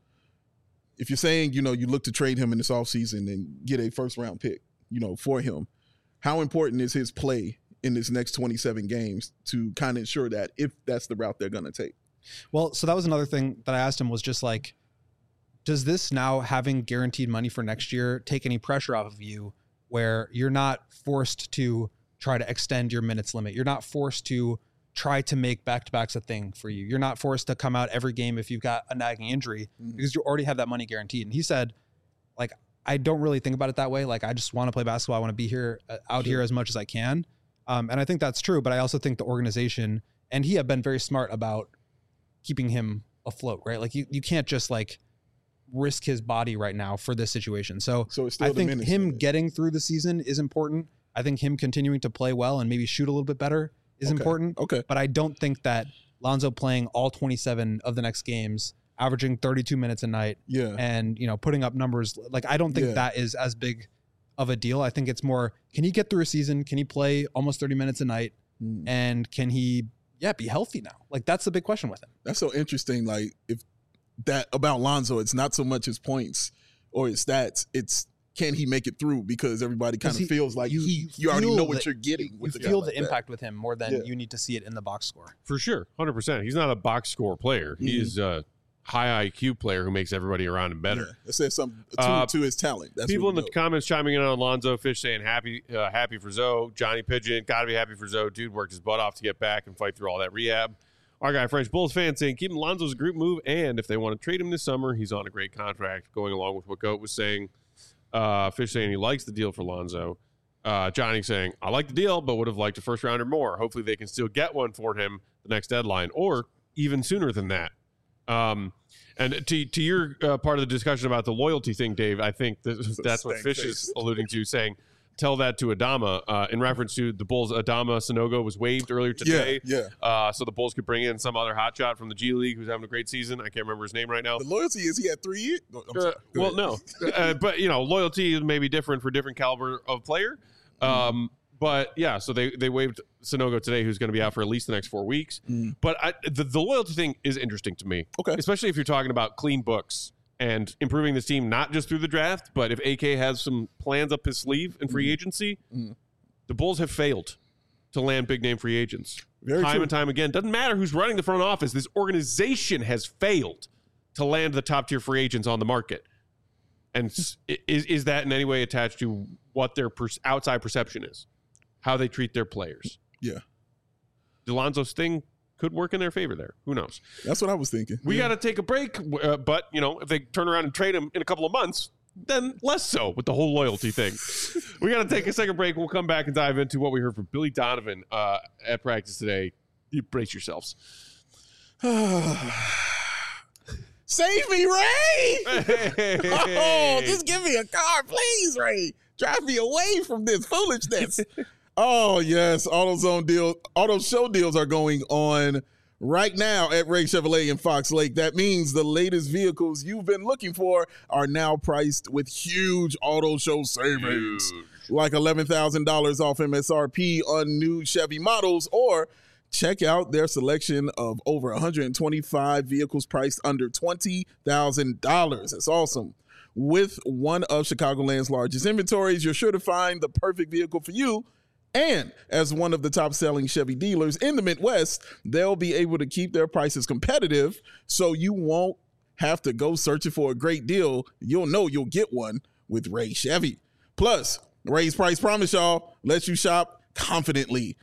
Speaker 3: if you're saying, you know, you look to trade him in this offseason and get a first round pick, you know, for him, how important is his play in this next twenty-seven games to kind of ensure that if that's the route they're going to take?
Speaker 4: Well, so that was another thing that I asked him was just like, does this now having guaranteed money for next year take any pressure off of you where you're not forced to try to extend your minutes limit? You're not forced to try to make back-to-backs a thing for you. You're not forced to come out every game if you've got a nagging injury
Speaker 3: Mhm.
Speaker 4: because you already have that money guaranteed. And he said, like, I don't really think about it that way. Like, I just want to play basketball. I want to be here, uh, out here as much as I can. Um, and I think that's true. But I also think the organization and he have been very smart about keeping him afloat, right? Like you, you can't just like risk his body right now for this situation. So,
Speaker 3: So it's still
Speaker 4: I
Speaker 3: the
Speaker 4: think
Speaker 3: minutes
Speaker 4: him
Speaker 3: limit.
Speaker 4: getting through the season is important. I think him continuing to play well and maybe shoot a little bit better is
Speaker 3: Okay.
Speaker 4: important.
Speaker 3: Okay.
Speaker 4: But I don't think that Lonzo playing all twenty-seven of the next games, averaging thirty-two minutes a night
Speaker 3: Yeah.
Speaker 4: and, you know, putting up numbers, like I don't think
Speaker 3: Yeah.
Speaker 4: that is as big of a deal. I think it's more, can he get through a season? Can he play almost thirty minutes a night?
Speaker 3: Mm.
Speaker 4: And can he, yeah, be healthy now? Like that's the big question with him.
Speaker 3: That's so interesting. Like if that about Lonzo, it's not so much his points or his stats. It's can he make it through because everybody kind
Speaker 4: 'Cause
Speaker 3: of
Speaker 4: he-
Speaker 3: feels like
Speaker 4: you-
Speaker 3: he,
Speaker 4: you
Speaker 3: you, already
Speaker 4: feel
Speaker 3: know what
Speaker 4: the-
Speaker 3: you're getting.
Speaker 4: You
Speaker 3: With a guy
Speaker 4: feel
Speaker 3: like
Speaker 4: the
Speaker 3: that.
Speaker 4: impact with him more than
Speaker 3: Yeah.
Speaker 4: you need to see it in the box score.
Speaker 1: For sure, one hundred percent. He's not a box score player.
Speaker 3: Mhm.
Speaker 1: He's a high I Q player who makes everybody around him better.
Speaker 3: Yeah. That says something to,
Speaker 1: Uh,
Speaker 3: to his talent. That's
Speaker 1: People
Speaker 3: what
Speaker 1: in
Speaker 3: we
Speaker 1: the
Speaker 3: know.
Speaker 1: comments chiming in on Lonzo. Fish saying happy, uh, happy for Zoe. Johnny Pigeon, gotta be happy for Zoe. Dude worked his butt off to get back and fight through all that rehab. Our guy French Bulls fan saying keeping Lonzo's a group move, and if they want to trade him this summer, he's on a great contract. Going along with what Goat was saying. Uh, Fish saying he likes the deal for Lonzo. Uh, Johnny saying I like the deal, but would have liked a first rounder more. Hopefully they can still get one for him the next deadline, or even sooner than that. Um, and to to your uh, part of the discussion about the loyalty thing, Dave, I think that, that's what
Speaker 3: stank
Speaker 1: Fish
Speaker 3: face.
Speaker 1: is alluding to, saying tell that to Adama uh, in reference to the Bulls. Adama Sanogo was waived earlier today,
Speaker 3: Yeah,
Speaker 1: Uh, so the Bulls could bring in some other hotshot from the G League who's having a great season. I can't remember his name right now.
Speaker 3: The loyalty is he had three years. No, I'm
Speaker 1: Uh,
Speaker 3: sorry. Go
Speaker 1: well,
Speaker 3: ahead.
Speaker 1: no, uh, but you know, loyalty may be different for different caliber of player. Um, but yeah, so they they waived Sanogo today, who's going to be out for at least the next four weeks.
Speaker 3: Mm.
Speaker 1: But I, the, the loyalty thing is interesting to me,
Speaker 3: Okay.
Speaker 1: especially if you're talking about clean books and improving this team not just through the draft, but if A K has some plans up his sleeve in free agency,
Speaker 3: Mm.
Speaker 1: the Bulls have failed to land big name free agents
Speaker 3: Very
Speaker 1: time
Speaker 3: true.
Speaker 1: and time again. Doesn't matter who's running the front office. This organization has failed to land the top tier free agents on the market. And s- is is that in any way attached to what their per- outside perception is, how they treat their players?
Speaker 3: Yeah.
Speaker 1: Delonzo's thing could work in their favor there. Who knows?
Speaker 3: That's what I was thinking.
Speaker 1: We
Speaker 3: Yeah.
Speaker 1: got to take a break, uh, but you know, if they turn around and trade him in a couple of months, then less so with the whole loyalty thing. We got to take a second break. We'll come back and dive into what we heard from Billy Donovan uh, at practice today. You brace yourselves.
Speaker 3: Save me, Ray!
Speaker 1: Hey.
Speaker 3: Oh, just give me a car, please, Ray. Drive me away from this foolishness. Oh, yes. AutoZone deal, auto show deals are going on right now at Ray Chevrolet in Fox Lake. That means the latest vehicles you've been looking for are now priced with huge auto show savings.
Speaker 1: Huge.
Speaker 3: Like eleven thousand dollars off M S R P on new Chevy models or Check out their selection of over one hundred twenty-five vehicles priced under twenty thousand dollars. That's awesome. With one of Chicagoland's largest inventories, you're sure to find the perfect vehicle for you. And as one of the top-selling Chevy dealers in the Midwest, they'll be able to keep their prices competitive so you won't have to go searching for a great deal. You'll know you'll get one with Ray Chevy. Plus, Ray's Price Promise, y'all, lets you shop confidently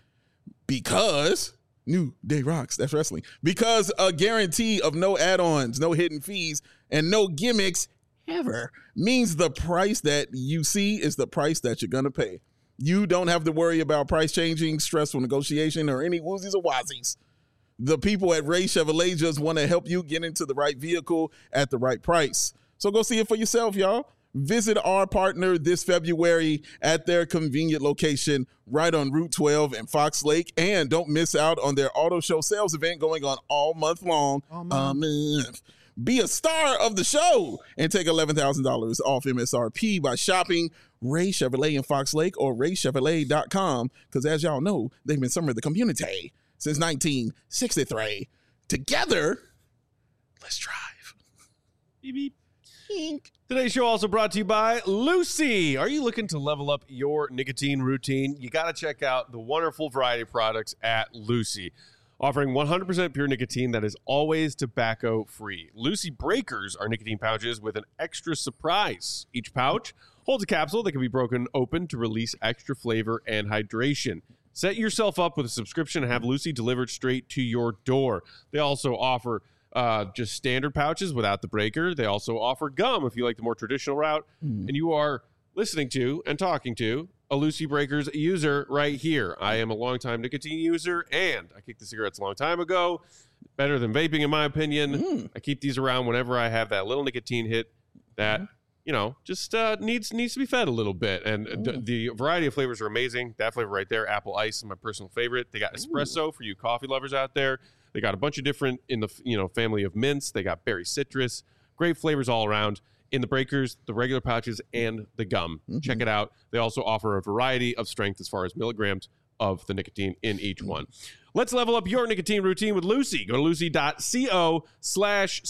Speaker 3: because New Day rocks. That's wrestling. Because a guarantee of no add-ons, no hidden fees, and no gimmicks ever means the price that you see is the price that you're going to pay. You don't have to worry about price changing, stressful negotiation, or any woozies or wazies. The people at Ray Chevrolet just want to help you get into the right vehicle at the right price. So go see it for yourself, y'all. Visit our partner this February at their convenient location right on Route twelve in Fox Lake. And don't miss out on their auto show sales event going on all month long. All month. Um, Be a star of the show and take eleven thousand dollars off M S R P by shopping Ray Chevrolet in Fox Lake or ray chevrolet dot com, because as y'all know, they've been serving the community since nineteen sixty-three. Together, let's drive.
Speaker 1: Beep, beep. Ink. Today's show also brought to you by Lucy. Are you looking to level up your nicotine routine? You got to check out the wonderful variety of products at Lucy, offering one hundred percent pure nicotine that is always tobacco-free. Lucy Breakers are nicotine pouches with an extra surprise. Each pouch holds a capsule that can be broken open to release extra flavor and hydration. Set yourself up with a subscription and have Lucy delivered straight to your door. They also offer uh, just standard pouches without the breaker. They also offer gum if you like the more traditional route. Mm. And you are listening to and talking to a Lucy Breakers user right here. I am a longtime nicotine user, and I kicked the cigarettes a long time ago. Better than vaping, in my opinion. Mm. I keep these around whenever I have that little nicotine hit that, mm. you know, just uh, needs needs to be fed a little bit. And mm. d- the variety of flavors are amazing. That flavor right there, apple ice, is my personal favorite. They got espresso Ooh. for you coffee lovers out there. They got a bunch of different in the you know family of mints. They got berry citrus. Great flavors all around. In the breakers, the regular pouches, and the gum. Mm-hmm. Check it out. They also offer a variety of strength as far as milligrams of the nicotine in each one. Let's level up your nicotine routine with Lucy. Go to lucy.co slash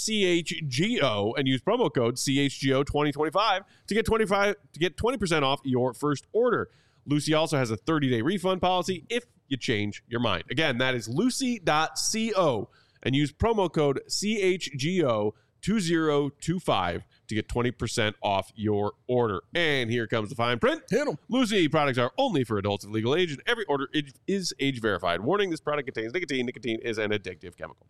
Speaker 1: CHGO and use promo code C H G O twenty twenty-five to get twenty-five to get twenty percent off your first order. Lucy also has a thirty-day refund policy if you change your mind. Again, that is lucy.co and use promo code C H G O twenty twenty-five to get twenty percent off your order. And here comes the fine print.
Speaker 3: Hit 'em.
Speaker 1: Lucy products are only for adults of legal age, and every order is age verified. Warning, this product contains nicotine. Nicotine is an addictive chemical.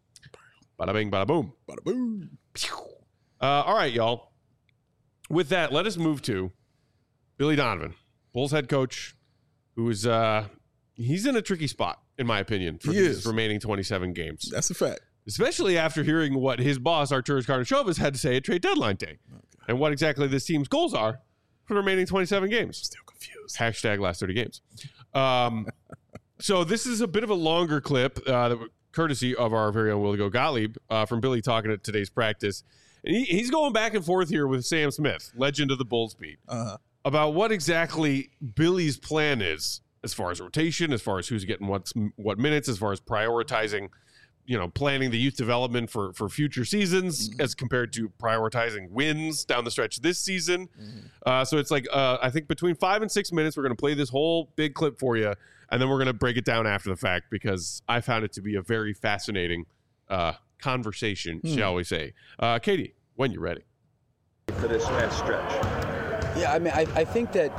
Speaker 1: Bada bing, bada boom.
Speaker 3: Bada boom.
Speaker 1: Uh, all right, y'all. With that, let us move to Billy Donovan, Bulls head coach, who is uh, he's in a tricky spot, in my opinion, for
Speaker 3: he
Speaker 1: his
Speaker 3: is.
Speaker 1: remaining twenty-seven games.
Speaker 3: That's a fact.
Speaker 1: Especially after hearing what his boss, Arturas Karnisovas, had to say at trade deadline day. Okay. And what exactly this team's goals are for the remaining twenty-seven games.
Speaker 3: Still confused.
Speaker 1: Hashtag last thirty games. Um, so this is a bit of a longer clip, uh, that, courtesy of our very own Willie Gottlieb, uh, from Billy talking at today's practice. And he, he's going back and forth here with Sam Smith, legend of the Bulls beat, uh-huh. about what exactly Billy's plan is as far as rotation, as far as who's getting what, what minutes, as far as prioritizing you know, planning the youth development for, for future seasons mm-hmm. as compared to prioritizing wins down the stretch this season. Mm-hmm. Uh, so it's like, uh, I think between five and six minutes, we're going to play this whole big clip for you. And then we're going to break it down after the fact because I found it to be a very fascinating uh, conversation, mm. shall we say. Uh, Katie, when you're ready.
Speaker 5: For this next stretch.
Speaker 10: Yeah, I mean, I, I think that,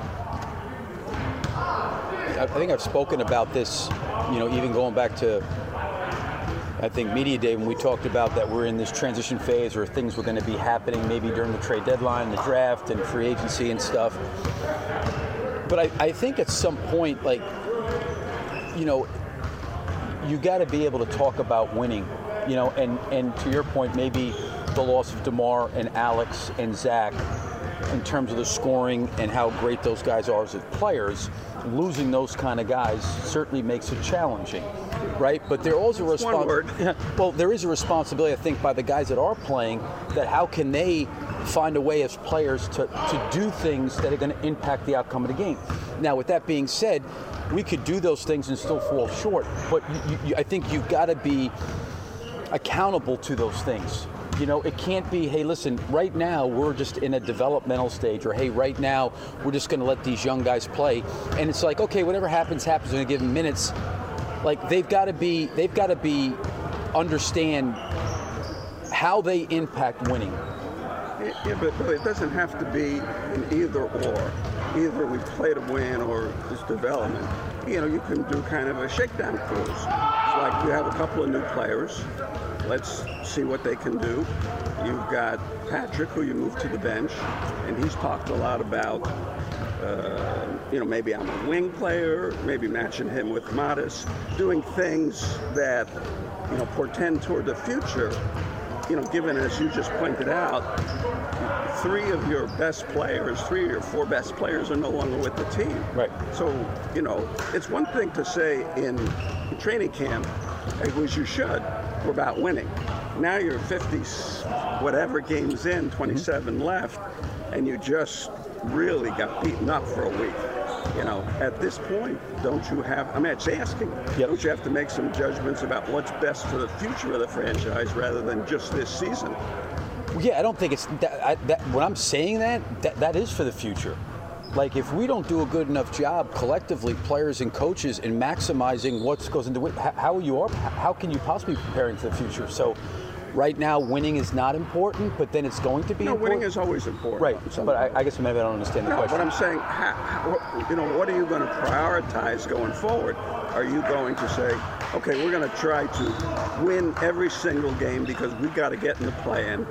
Speaker 10: I think I've spoken about this, you know, even going back to, I think media day when we talked about that we're in this transition phase or things were going to be happening maybe during the trade deadline, the draft and free agency and stuff. But I, I think at some point, like, you know, you got to be able to talk about winning, you know, and, and to your point, maybe the loss of DeMar and Alex and Zach in terms of the scoring and how great those guys are as players, losing those kind of guys certainly makes it challenging. Right, but there also a responsibility. Well, there is a responsibility, I think, by the guys that are playing. That how can they find a way as players to, to do things that are going to impact the outcome of the game. Now, with that being said, we could do those things and still fall short, but you, you, I think you've got to be accountable to those things. You know, it can't be, hey, listen, right now we're just in a developmental stage, or hey, right now we're just going to let these young guys play. And it's like, okay, whatever happens, happens in a given minutes. Like they've got to be, they've got to be, understand how they impact winning.
Speaker 5: Yeah, but, but it doesn't have to be an either or. Either we play to win or just development. You know, you can do kind of a shakedown cruise. It's like you have a couple of new players. Let's see what they can do. You've got Patrick, who you moved to the bench, and he's talked a lot about, uh, you know, maybe I'm a wing player, maybe matching him with Modest, doing things that, you know, portend toward the future. You know, given, as you just pointed out, three of your best players, three of your four best players are no longer with the team.
Speaker 10: Right.
Speaker 5: So, you know, it's one thing to say in training camp, as you should, we're about winning. Now you're fifty whatever games in, twenty-seven mm-hmm. left, and you just really got beaten up for a week. You know, at this point, don't you have, I mean, it's asking, yep. don't you have to make some judgments about what's best for the future of the franchise rather than just this season?
Speaker 10: Yeah, I don't think it's, that, I, that when I'm saying that, that, that is for the future. Like, if we don't do a good enough job collectively, players and coaches, in maximizing what goes into it, how you are, how can you possibly be preparing for the future? So, right now, winning is not important, but then it's going to be
Speaker 5: no,
Speaker 10: important.
Speaker 5: winning is always important.
Speaker 10: Right, but I, I guess maybe I don't understand the
Speaker 5: no,
Speaker 10: question.
Speaker 5: But I'm saying, how, how, you know, what are you going to prioritize going forward? Are you going to say, okay, we're going to try to win every single game because we've got to get in the play-in?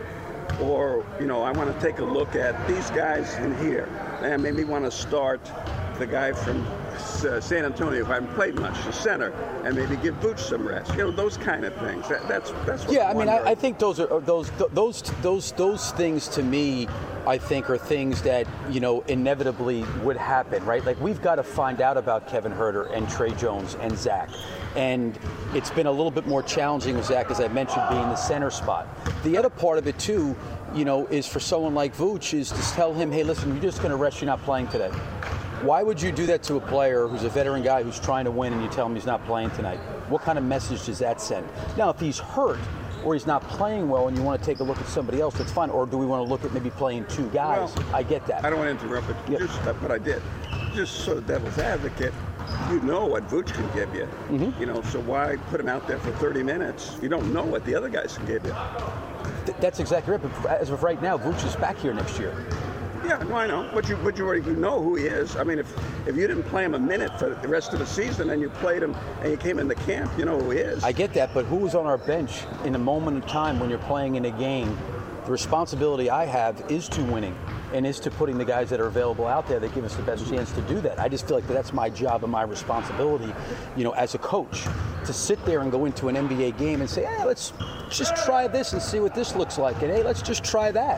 Speaker 5: Or, you know, I want to take a look at these guys in here, and maybe want to start the guy from uh, San Antonio, who I haven't played much, the center, and maybe give Vooch some rest. You know, those kind of things. That, that's that's what
Speaker 10: yeah.
Speaker 5: I'm
Speaker 10: I mean, I, I think those are those those those those things to me, I think, are things that, you know, inevitably would happen, right? Like, we've got to find out about Kevin Huerter and Trey Jones and Zach. And it's been a little bit more challenging with Zach, as I mentioned, being the center spot. The other part of it, too, you know, is for someone like Vooch is to tell him, hey, listen, you're just going to rest, you're not playing today. Why would you do that to a player who's a veteran guy who's trying to win and you tell him he's not playing tonight? What kind of message does that send? Now, if he's hurt or he's not playing well and you want to take a look at somebody else, that's fine. Or do we want to look at maybe playing two guys? Well, I get that.
Speaker 5: I don't want to interrupt, but, yep. just, but I did. Just so devil's advocate, you know what Vooch can give you. Mm-hmm. You know, so why put him out there for thirty minutes? You don't know what the other guys can give you.
Speaker 10: Th- that's exactly right. But as of right now, Vooch is back here next year.
Speaker 5: Yeah, no, I know. But you, but you already know who he is. I mean, if if you didn't play him a minute for the rest of the season and you played him and you came into camp, you know who he is.
Speaker 10: I get that, but who was on our bench in a moment of time when you're playing in a game? The responsibility I have is to winning and is to putting the guys that are available out there that give us the best chance to do that. I just feel like that's my job and my responsibility, you know, as a coach, to sit there and go into an N B A game and say, hey, let's just try this and see what this looks like. And hey, let's just try that.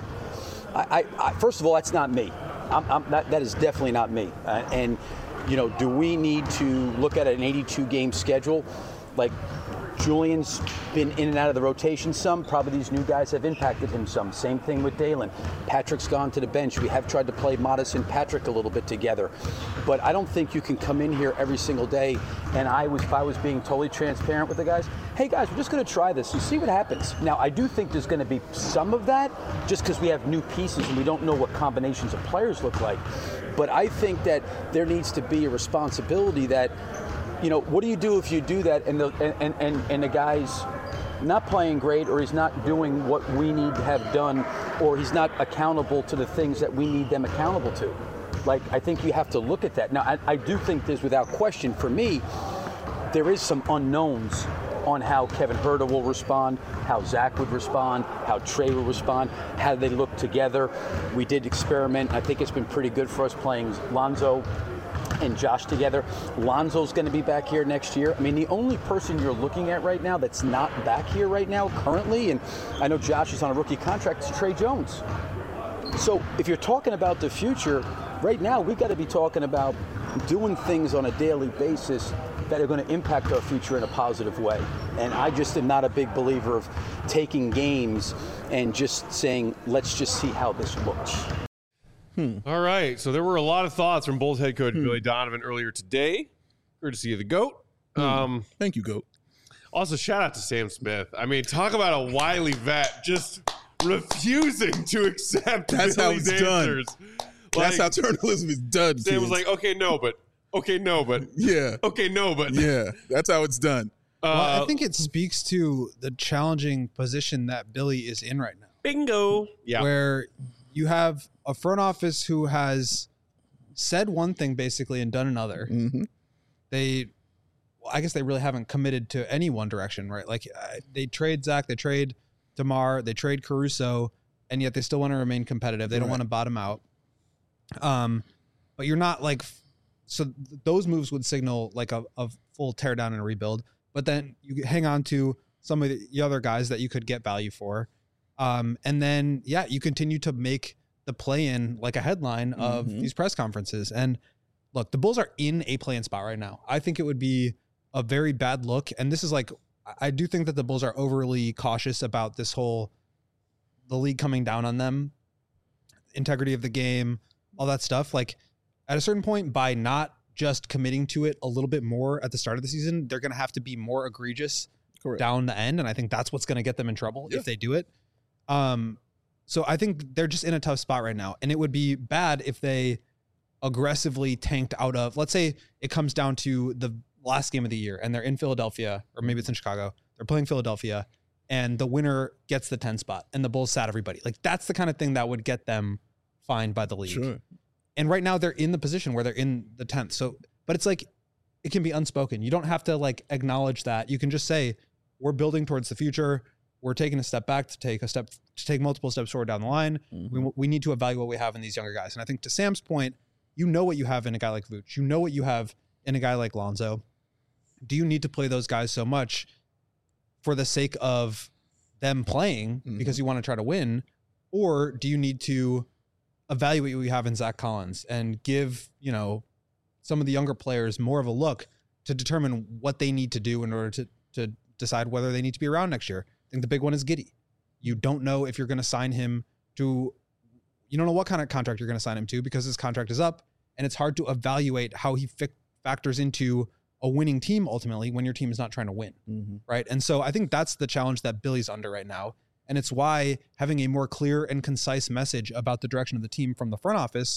Speaker 10: I, I, I first of all, that's not me. I'm, I'm not, that is definitely not me. Uh, and, you know, do we need to look at an eighty-two game schedule? Like, Julian's been in and out of the rotation some. Probably these new guys have impacted him some. Same thing with Dalen. Patrick's gone to the bench. We have tried to play Modest and Patrick a little bit together. But I don't think you can come in here every single day. And I was, if I was being totally transparent with the guys, hey guys, we're just going to try this and see what happens. Now, I do think there's going to be some of that just because we have new pieces and we don't know what combinations of players look like. But I think that there needs to be a responsibility that, you know, what do you do if you do that and the and, and, and the guy's not playing great, or he's not doing what we need to have done, or he's not accountable to the things that we need them accountable to? Like, I think you have to look at that. Now, I, I do think there's, without question, for me, there is some unknowns on how Kevin Huerter will respond, how Zach would respond, how Trey will respond, how they look together. We did experiment. I think it's been pretty good for us playing Lonzo and Josh together. Lonzo's going to be back here next year. I mean, the only person you're looking at right now that's not back here right now currently, and I know Josh is on a rookie contract, is Trey Jones. So if you're talking about the future, right now we've got to be talking about doing things on a daily basis that are going to impact our future in a positive way. And I just am not a big believer of taking games and just saying, let's just see how this looks.
Speaker 1: Hmm. All right. So there were a lot of thoughts from Bulls head coach hmm. Billy Donovan earlier today, courtesy of the GOAT.
Speaker 3: Hmm.
Speaker 1: Um,
Speaker 3: Thank you, GOAT.
Speaker 1: Also, shout out to Sam Smith. I mean, talk about a wily vet just refusing to accept
Speaker 3: That's
Speaker 1: Billy's
Speaker 3: how it's
Speaker 1: answers.
Speaker 3: done.
Speaker 1: Like,
Speaker 3: That's how journalism is done.
Speaker 1: Sam
Speaker 3: kids.
Speaker 1: was like, okay, no, but okay, no, but
Speaker 3: yeah,
Speaker 1: okay, no, but
Speaker 3: yeah. That's how it's done.
Speaker 4: Well,
Speaker 1: Uh,
Speaker 4: I think it speaks to the challenging position that Billy is in right now.
Speaker 1: Bingo. Yeah.
Speaker 4: Where you have a front office who has said one thing basically and done another.
Speaker 3: Mm-hmm.
Speaker 4: They, well, I guess they really haven't committed to any one direction, right? Like uh, they trade Zach, they trade DeMar, they trade Caruso, and yet they still want to remain competitive. They don't
Speaker 3: Right.
Speaker 4: want to bottom out. Um, but you're not like, so th- those moves would signal like a, a full teardown and a rebuild. But then you hang on to some of the other guys that you could get value for. Um, and then, yeah, you continue to make the play-in like a headline of
Speaker 3: Mhm.
Speaker 4: these press conferences. And look, the Bulls are in a play-in spot right now. I think it would be a very bad look. And this is like, I do think that the Bulls are overly cautious about this whole, the league coming down on them, integrity of the game, all that stuff. Like at a certain point, by not just committing to it a little bit more at the start of the season, they're going to have to be more egregious
Speaker 3: Correct.
Speaker 4: down the end. And I think that's what's going to get them in trouble
Speaker 3: Yeah.
Speaker 4: if they do it. Um, so I think they're just in a tough spot right now. And it would be bad if they aggressively tanked out of, let's say it comes down to the last game of the year and they're in Philadelphia, or maybe it's in Chicago. They're playing Philadelphia and the winner gets the ten spot and the Bulls sat everybody. Like that's the kind of thing that would get them fined by the league.
Speaker 3: Sure.
Speaker 4: And right now they're in the position where they're in the tenth. So, but it's like, it can be unspoken. You don't have to like acknowledge that. You can just say, we're building towards the future. We're taking a step back to take a step, to take multiple steps forward down the line.
Speaker 3: Mm-hmm.
Speaker 4: We, we need to evaluate what we have in these younger guys. And I think to Sam's point, you know what you have in a guy like Vooch. You know what you have in a guy like Lonzo. Do you need to play those guys so much for the sake of them playing
Speaker 3: Mhm.
Speaker 4: because you want to try to win? Or do you need to evaluate what you have in Zach Collins and give, you know, some of the younger players more of a look to determine what they need to do in order to, to decide whether they need to be around next year? I think the big one is Giddey. You don't know if you're going to sign him to, you don't know what kind of contract you're going to sign him to because his contract is up, and it's hard to evaluate how he fi- factors into a winning team ultimately when your team is not trying to win.
Speaker 3: Mm-hmm.
Speaker 4: Right. And so I think that's the challenge that Billy's under right now. And it's why having a more clear and concise message about the direction of the team from the front office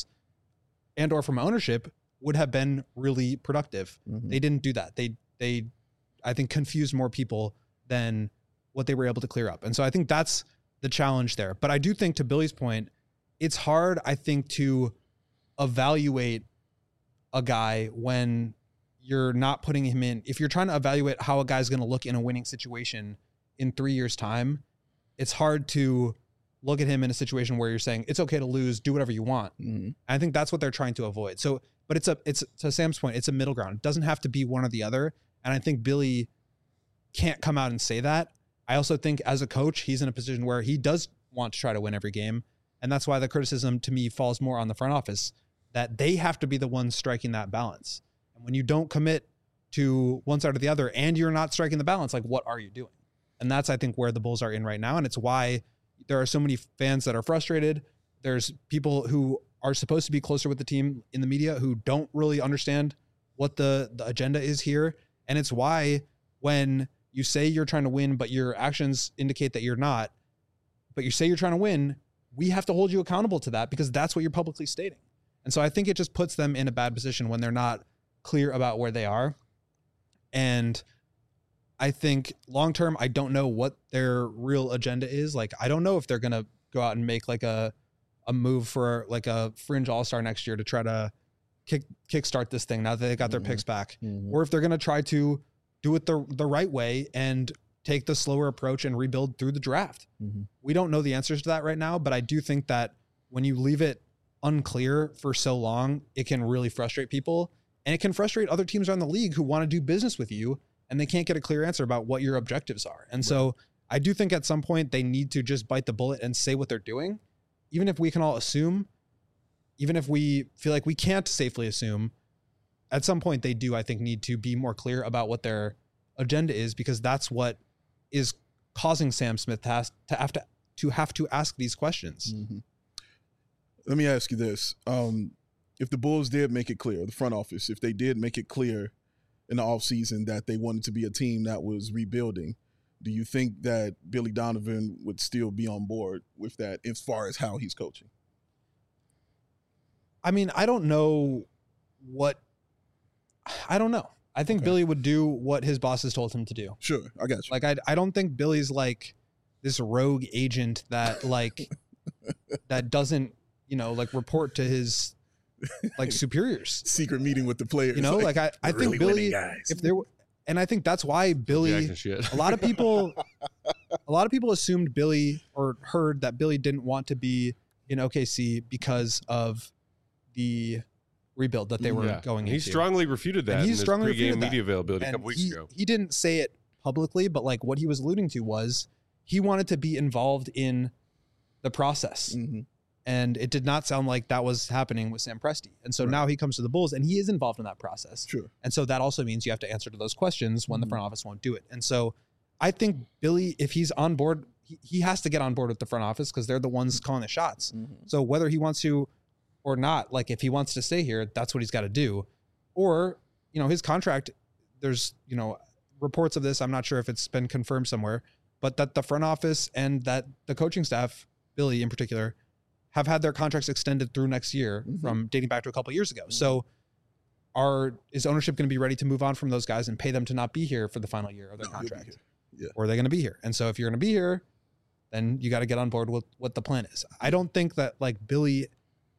Speaker 4: and or from ownership would have been really productive.
Speaker 3: Mhm.
Speaker 4: They didn't do that. They, they, I think, confused more people than what they were able to clear up. And so I think that's the challenge there. But I do think, to Billy's point, it's hard, I think, to evaluate a guy when you're not putting him in. If you're trying to evaluate how a guy's going to look in a winning situation in three years' time, it's hard to look at him in a situation where you're saying it's okay to lose, do whatever you want.
Speaker 3: Mm-hmm.
Speaker 4: I think that's what they're trying to avoid. So, but it's a, it's to Sam's point, it's a middle ground. It doesn't have to be one or the other. And I think Billy can't come out and say that. I also think as a coach, he's in a position where he does want to try to win every game. And that's why the criticism to me falls more on the front office, that they have to be the ones striking that balance. And when you don't commit to one side or the other and you're not striking the balance, like what are you doing? And that's, I think, where the Bulls are in right now. And it's why there are so many fans that are frustrated. There's people who are supposed to be closer with the team in the media who don't really understand what the, the agenda is here. And it's why when you say you're trying to win, but your actions indicate that you're not, but you say you're trying to win, we have to hold you accountable to that because that's what you're publicly stating. And so I think it just puts them in a bad position when they're not clear about where they are. And I think long-term, I don't know what their real agenda is. Like, I don't know if they're going to go out and make like a, a move for like a fringe all-star next year to try to kick kickstart this thing now that they got their
Speaker 3: Mhm.
Speaker 4: picks back,
Speaker 3: Mhm.
Speaker 4: or if they're going to try to do it the, the right way and take the slower approach and rebuild through the draft.
Speaker 3: Mm-hmm.
Speaker 4: We don't know the answers to that right now, but I do think that when you leave it unclear for so long, it can really frustrate people, and it can frustrate other teams around the league who want to do business with you and they can't get a clear answer about what your objectives are. And so I do think at some point they need to just bite the bullet and say what they're doing, even if we can all assume, even if we feel like we can't safely assume. at some point they do, I think, need to be more clear about what their agenda is, because that's what is causing Sam Smith to have to have to, to, have to ask these questions.
Speaker 3: Mm-hmm. Let me ask you this. Um, if the Bulls did make it clear, the front office, if they did make it clear in the offseason that they wanted to be a team that was rebuilding, do you think that Billy Donovan would still be on board with that as far as how he's coaching?
Speaker 4: I mean, I don't know what – I don't know. I think
Speaker 3: Okay.
Speaker 4: Billy would do what his bosses told him to do.
Speaker 3: Sure, I got you.
Speaker 4: Like, I, I don't think Billy's like this rogue agent that like that doesn't, you know, like report to his like superiors.
Speaker 3: Secret meeting with the players.
Speaker 4: You know, like I, I think
Speaker 3: really
Speaker 4: Billy,
Speaker 3: winning guys.
Speaker 4: if there were, and I think that's why Billy,
Speaker 1: Jackson shit.
Speaker 4: a lot of people, a lot of people assumed Billy or heard that Billy didn't want to be in O K C because of the rebuild that they were
Speaker 1: Yeah.
Speaker 4: going
Speaker 1: He
Speaker 4: into.
Speaker 1: strongly refuted that
Speaker 4: And
Speaker 1: in
Speaker 4: he
Speaker 1: his
Speaker 4: strongly
Speaker 1: pregame
Speaker 4: refuted that.
Speaker 1: media availability a
Speaker 4: And
Speaker 1: couple weeks
Speaker 4: he,
Speaker 1: ago.
Speaker 4: he didn't say it publicly, but like what he was alluding to was he wanted to be involved in the process.
Speaker 3: Mm-hmm.
Speaker 4: And it did not sound like that was happening with Sam Presti. And so
Speaker 3: Right.
Speaker 4: now he comes to the Bulls and he is involved in that process.
Speaker 3: Sure.
Speaker 4: And so that also means you have to answer to those questions when
Speaker 3: Mhm.
Speaker 4: the front office won't do it. And so I think Billy, if he's on board, he, he has to get on board with the front office because they're the ones calling the shots.
Speaker 3: Mm-hmm.
Speaker 4: So whether he wants to or not, like if he wants to stay here, that's what he's got to do. Or, you know, his contract, there's, you know, reports of this. I'm not sure if it's been confirmed somewhere, but that the front office and that the coaching staff, Billy in particular, have had their contracts extended through next year
Speaker 3: Mhm.
Speaker 4: from dating back to a couple of years ago. So are is ownership going to be ready to move on from those guys and pay them to not be here for the final year of their
Speaker 3: No, he'll be
Speaker 4: contract?
Speaker 3: here. Yeah.
Speaker 4: Or are they going to be here? And so if you're going to be here, then you got to get on board with what the plan is. I don't think that like Billy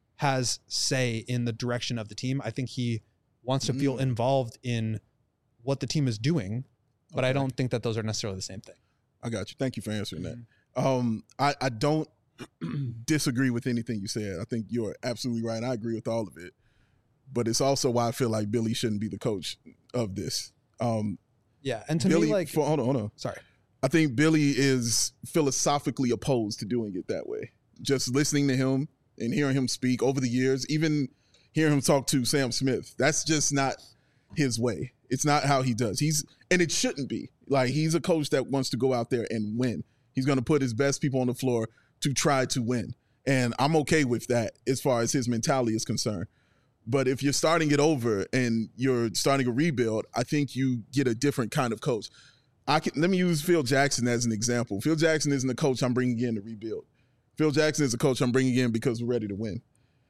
Speaker 4: has say in the direction of the team. I think he wants to feel
Speaker 3: Mm.
Speaker 4: involved in what the team is doing, but I
Speaker 3: Okay.
Speaker 4: don't think that those are necessarily the same thing.
Speaker 3: I got you. Thank you for answering that.
Speaker 4: Mm-hmm.
Speaker 3: Um, I, I don't disagree with anything you said. I think you're absolutely right. I agree with all of it. But it's also why I feel like Billy shouldn't be the coach of this. Um,
Speaker 4: Yeah. And to
Speaker 3: Billy,
Speaker 4: me, like,
Speaker 3: for, hold on, hold on.
Speaker 4: sorry.
Speaker 3: I think Billy is philosophically opposed to doing it that way. Just listening to him and hearing him speak over the years, even hearing him talk to Sam Smith, that's just not his way. It's not how he does. He's and it shouldn't be. Like, he's a coach that wants to go out there and win. He's going to put his best people on the floor to try to win. And I'm okay with that as far as his mentality is concerned. But if you're starting it over and you're starting a rebuild, I think you get a different kind of coach. I can let me use Phil Jackson as an example. Phil Jackson isn't a coach I'm bringing in to rebuild. Phil Jackson is a coach I'm bringing in because we're ready to win.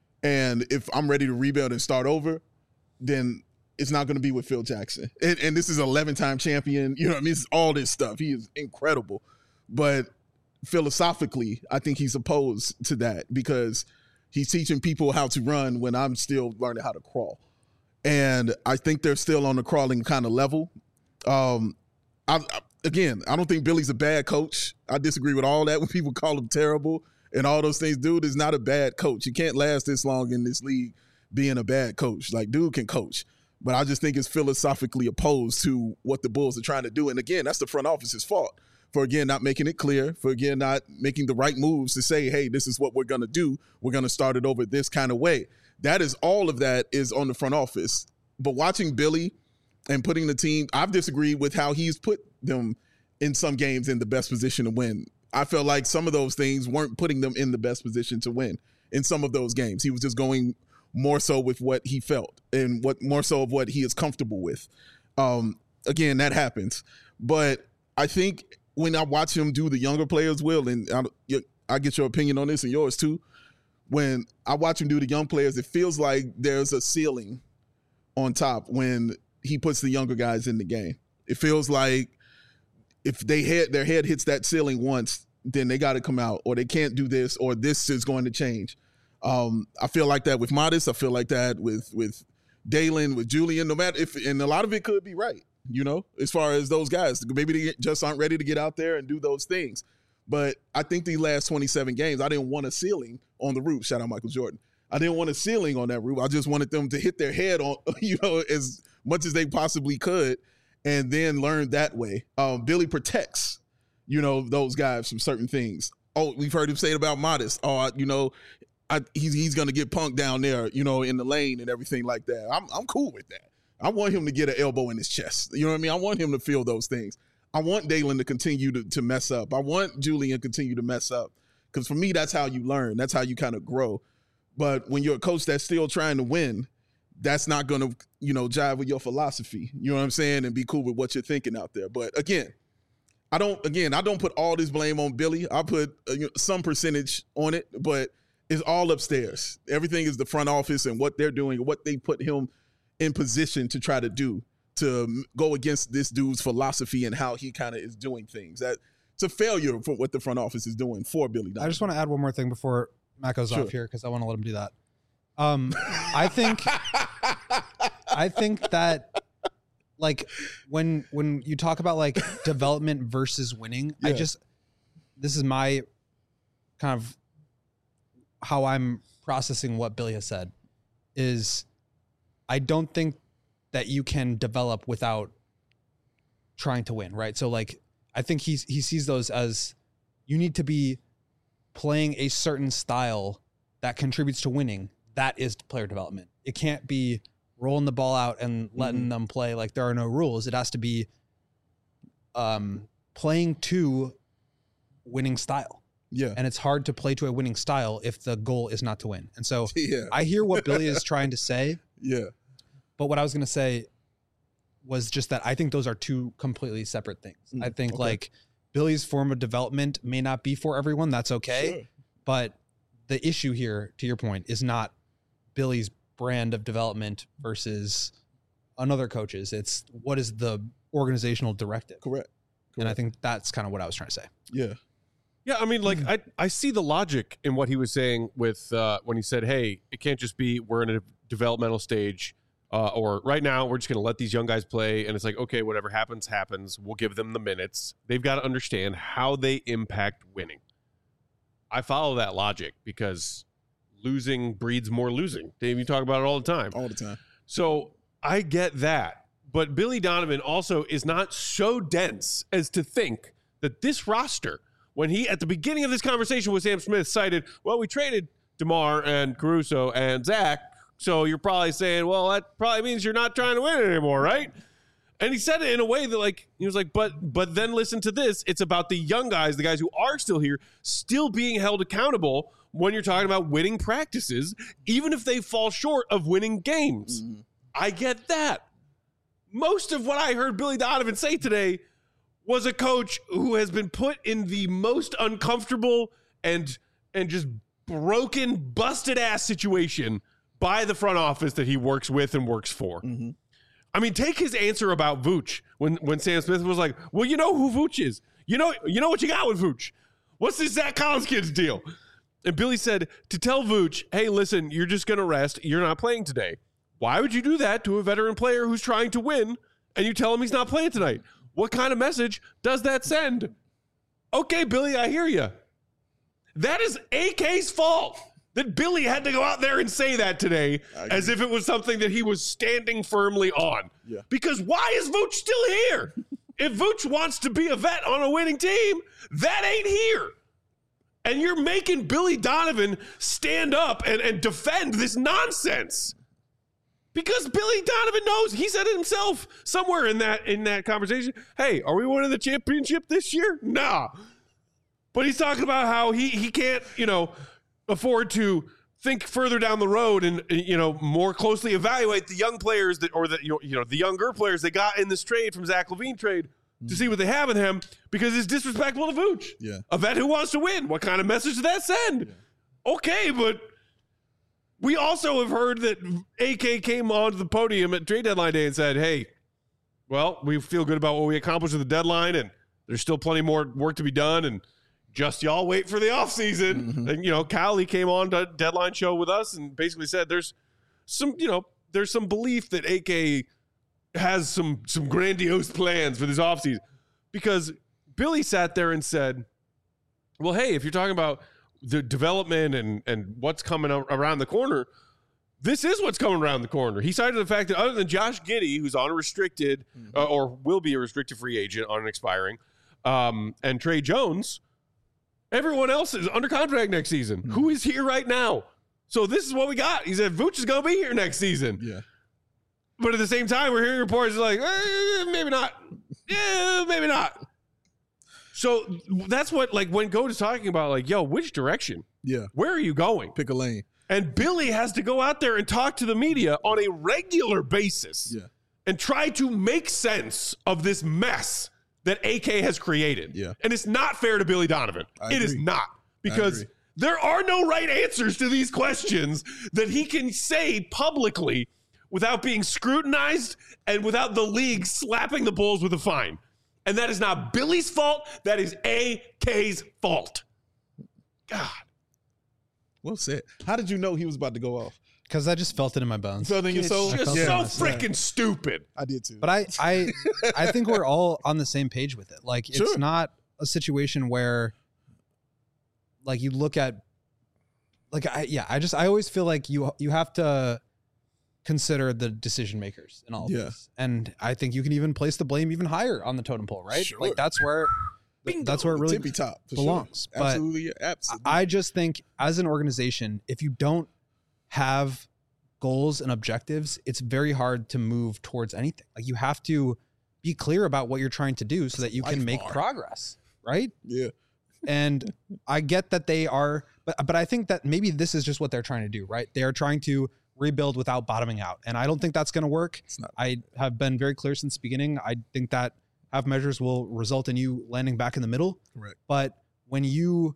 Speaker 3: And if I'm ready to rebuild and start over, then it's not going to be with Phil Jackson. And, and this is an eleven-time champion. You know what I mean? It's all this stuff. He is incredible. But philosophically, I think he's opposed to that because he's teaching people how to run when I'm still learning how to crawl. And I think they're still on the crawling kind of level. Um, I, I, again, I don't think Billy's a bad coach. I disagree with all that when people call him terrible and all those things. Dude is not a bad coach. You can't last this long in this league being a bad coach. Like, dude can coach. But I just think it's philosophically opposed to what the Bulls are trying to do. And again, that's the front office's fault for, again, not making it clear, for, again, not making the right moves to say, hey, this is what we're going to do. We're going to start it over this kind of way. That is, all of that is on the front office. But watching Billy and putting the team, I've disagreed with how he's put them in some games in the best position to win. I felt like some of those things weren't putting them in the best position to win in some of those games. He was just going more so with what he felt and what more so of what he is comfortable with. Um, again, that happens. But I think when I watch him do the younger players, Will, and I, I get your opinion on this and yours too, when I watch him do the young players, it feels like there's a ceiling on top when he puts the younger guys in the game. It feels like if they head, their head hits that ceiling once, then they got to come out, or they can't do this, or this is going to change. Um, I feel like that with Modest. I feel like that with with Dalen, with Julian. No matter if, and a lot of it could be right, you know, as far as those guys. Maybe they just aren't ready to get out there and do those things. But I think the last twenty-seven games, I didn't want a ceiling on the roof. Shout out Michael Jordan. I didn't want a ceiling on that roof. I just wanted them to hit their head on, you know, as much as they possibly could, and then learn that way. Um, Billy protects, you know, those guys from certain things. Oh, we've heard him say it about Modest. Oh, you know, I, he's he's gonna get punked down there, you know, in the lane and everything like that. I'm I'm cool with that. I want him to get an elbow in his chest. You know what I mean? I want him to feel those things. I want Dalen to continue to, to mess up. I want Julian to continue to mess up. Because for me, that's how you learn. That's how you kind of grow. But when you're a coach that's still trying to win, that's not going to, you know, jive with your philosophy. You know what I'm saying? And be cool with what you're thinking out there. But again, I don't, again, I don't put all this blame on Billy. I put uh, you know, some percentage on it, but it's all upstairs. Everything is the front office and what they're doing, what they put him in position to try to do, to go against this dude's philosophy and how he kind of is doing things. That it's a failure for what the front office is doing for Billy Donovan.
Speaker 4: I just want to add one more thing before Matt goes
Speaker 3: Sure.
Speaker 4: off here, because I want to let him do that. Um, I think, I think that, like, when when you talk about like development versus winning, I
Speaker 3: Yeah.
Speaker 4: just this is my kind of how I'm processing what Billy has said. Is I don't think that you can develop without trying to win, right? So like, I think he's he sees those as you need to be playing a certain style that contributes to winning. That is player development. It can't be rolling the ball out and letting
Speaker 3: Mhm.
Speaker 4: them play like there are no rules. It has to be um, playing to winning style.
Speaker 3: Yeah.
Speaker 4: And it's hard to play to a winning style if the goal is not to win. And so
Speaker 3: Yeah.
Speaker 4: I hear what Billy is trying to say.
Speaker 3: Yeah.
Speaker 4: But what I was going to say was just that I think those are two completely separate things.
Speaker 3: Mm,
Speaker 4: I think
Speaker 3: okay.
Speaker 4: like Billy's form of development may not be for everyone. That's okay.
Speaker 3: Sure.
Speaker 4: But the issue here, to your point, is not Billy's brand of development versus another coach's. It's what is the organizational directive.
Speaker 3: Correct.
Speaker 4: And I
Speaker 3: Correct.
Speaker 4: think that's kind of what I was trying to say.
Speaker 3: Yeah.
Speaker 1: Yeah, I mean, like I, I see the logic in what he was saying with uh, when he said, "Hey, it can't just be we're in a developmental stage, uh, or right now we're just going to let these young guys play." And it's like, okay, whatever happens, happens. We'll give them the minutes. They've got to understand how they impact winning. I follow that logic because losing breeds more losing. Dave, you talk about it all the time.
Speaker 3: All the time.
Speaker 1: So I get that. But Billy Donovan also is not so dense as to think that this roster, when he, at the beginning of this conversation with Sam Smith, cited, well, we traded DeMar and Caruso and Zach, so you're probably saying, well, that probably means you're not trying to win anymore, right? And he said it in a way that, like, he was like, but but then listen to this. It's about the young guys, the guys who are still here, still being held accountable when you're talking about winning practices, even if they fall short of winning games.
Speaker 3: Mm-hmm.
Speaker 1: I get that. Most of what I heard Billy Donovan say today was a coach who has been put in the most uncomfortable and and just broken, busted ass situation by the front office that he works with and works for.
Speaker 3: Mm-hmm.
Speaker 1: I mean, take his answer about Vooch when when Sam Smith was like, "Well, you know who Vooch is. You know, you know what you got with Vooch. What's this Zach Collins kid's deal?" And Billy said to tell Vooch, "Hey, listen, you're just gonna rest. You're not playing today. Why would you do that to a veteran player who's trying to win and you tell him he's not playing tonight? What kind of message does that send?" Okay, Billy, I hear you. That is A K's fault that Billy had to go out there and say that today as if it was something that he was standing firmly on.
Speaker 3: Yeah.
Speaker 1: Because why is Vooch still here? If Vooch wants to be a vet on a winning team, that ain't here. And you're making Billy Donovan stand up and, and defend this nonsense. Because Billy Donovan knows, he said it himself somewhere in that in that conversation. Hey, are we winning the championship this year? Nah. But he's talking about how he he can't, you know, afford to think further down the road and, you know, more closely evaluate the young players that, or the, you know, you know, the younger players they got in this trade from Zach LaVine trade to see what they have in him, because it's disrespectful to Vooch.
Speaker 3: Yeah.
Speaker 1: A vet who wants to win. What kind of message does that send? Yeah. Okay, but we also have heard that A K came onto the podium at trade deadline day and said, hey, well, we feel good about what we accomplished at the deadline, and there's still plenty more work to be done, and just y'all wait for the offseason. Mm-hmm. And, you know, Cali came on to deadline show with us and basically said there's some, you know, there's some belief that A K has some some grandiose plans for this offseason. Because Billy sat there and said, well, hey, if you're talking about the development and, and what's coming around the corner, this is what's coming around the corner. He cited the fact that other than Josh Giddey, who's on a restricted mm-hmm. uh, or will be a restricted free agent on an expiring, um, and Trey Jones, everyone else is under contract next season. Mm-hmm. Who is here right now? So this is what we got. He said Vooch is going to be here next season.
Speaker 3: Yeah.
Speaker 1: But at the same time, we're hearing reports like, eh, maybe not. Yeah, maybe not. So that's what, like, when Goat is talking about, like, yo, which direction?
Speaker 3: Yeah.
Speaker 1: Where are you going?
Speaker 3: Pick a lane.
Speaker 1: And Billy has to go out there and talk to the media on a regular basis
Speaker 3: Yeah.
Speaker 1: and try to make sense of this mess that A K has created.
Speaker 3: Yeah.
Speaker 1: And it's not fair to Billy Donovan.
Speaker 3: I
Speaker 1: It is
Speaker 3: agree.
Speaker 1: not. Because
Speaker 3: agree.
Speaker 1: there are no right answers to these questions that he can say publicly without being scrutinized and without the league slapping the Bulls with a fine. And that is not Billy's fault. That is A K's fault. God.
Speaker 3: Well said. How did you know he was about to go off?
Speaker 4: Because I just felt it in my bones.
Speaker 3: Felt in your soul?
Speaker 1: It's just
Speaker 3: Yeah.
Speaker 1: so freaking stupid.
Speaker 3: I did too.
Speaker 4: But I, I, I think we're all on the same page with it. Like, it's
Speaker 3: Sure.
Speaker 4: not a situation where, like, you look at, like, I, yeah, I just, I always feel like you, you have to consider the decision makers in all of
Speaker 3: Yeah.
Speaker 4: this. And I think you can even place the blame even higher on the totem pole, right?
Speaker 3: Sure.
Speaker 4: Like, that's where, that's where it really
Speaker 3: Tippy top for
Speaker 4: belongs.
Speaker 3: Sure.
Speaker 4: But
Speaker 3: Absolutely. Absolutely.
Speaker 4: I just think as an organization, if you don't have goals and objectives, it's very hard to move towards anything. Like, you have to be clear about what you're trying to do so that you can
Speaker 3: life
Speaker 4: make
Speaker 3: bar.
Speaker 4: progress, right?
Speaker 3: yeah.
Speaker 4: And I get that they are, but but I think that maybe this is just what they're trying to do, right? They are trying to rebuild without bottoming out. And I don't think that's going to work.
Speaker 3: It's not.
Speaker 4: I have been very clear since the beginning. I think that half measures will result in you landing back in the middle.
Speaker 3: Correct.
Speaker 4: But when you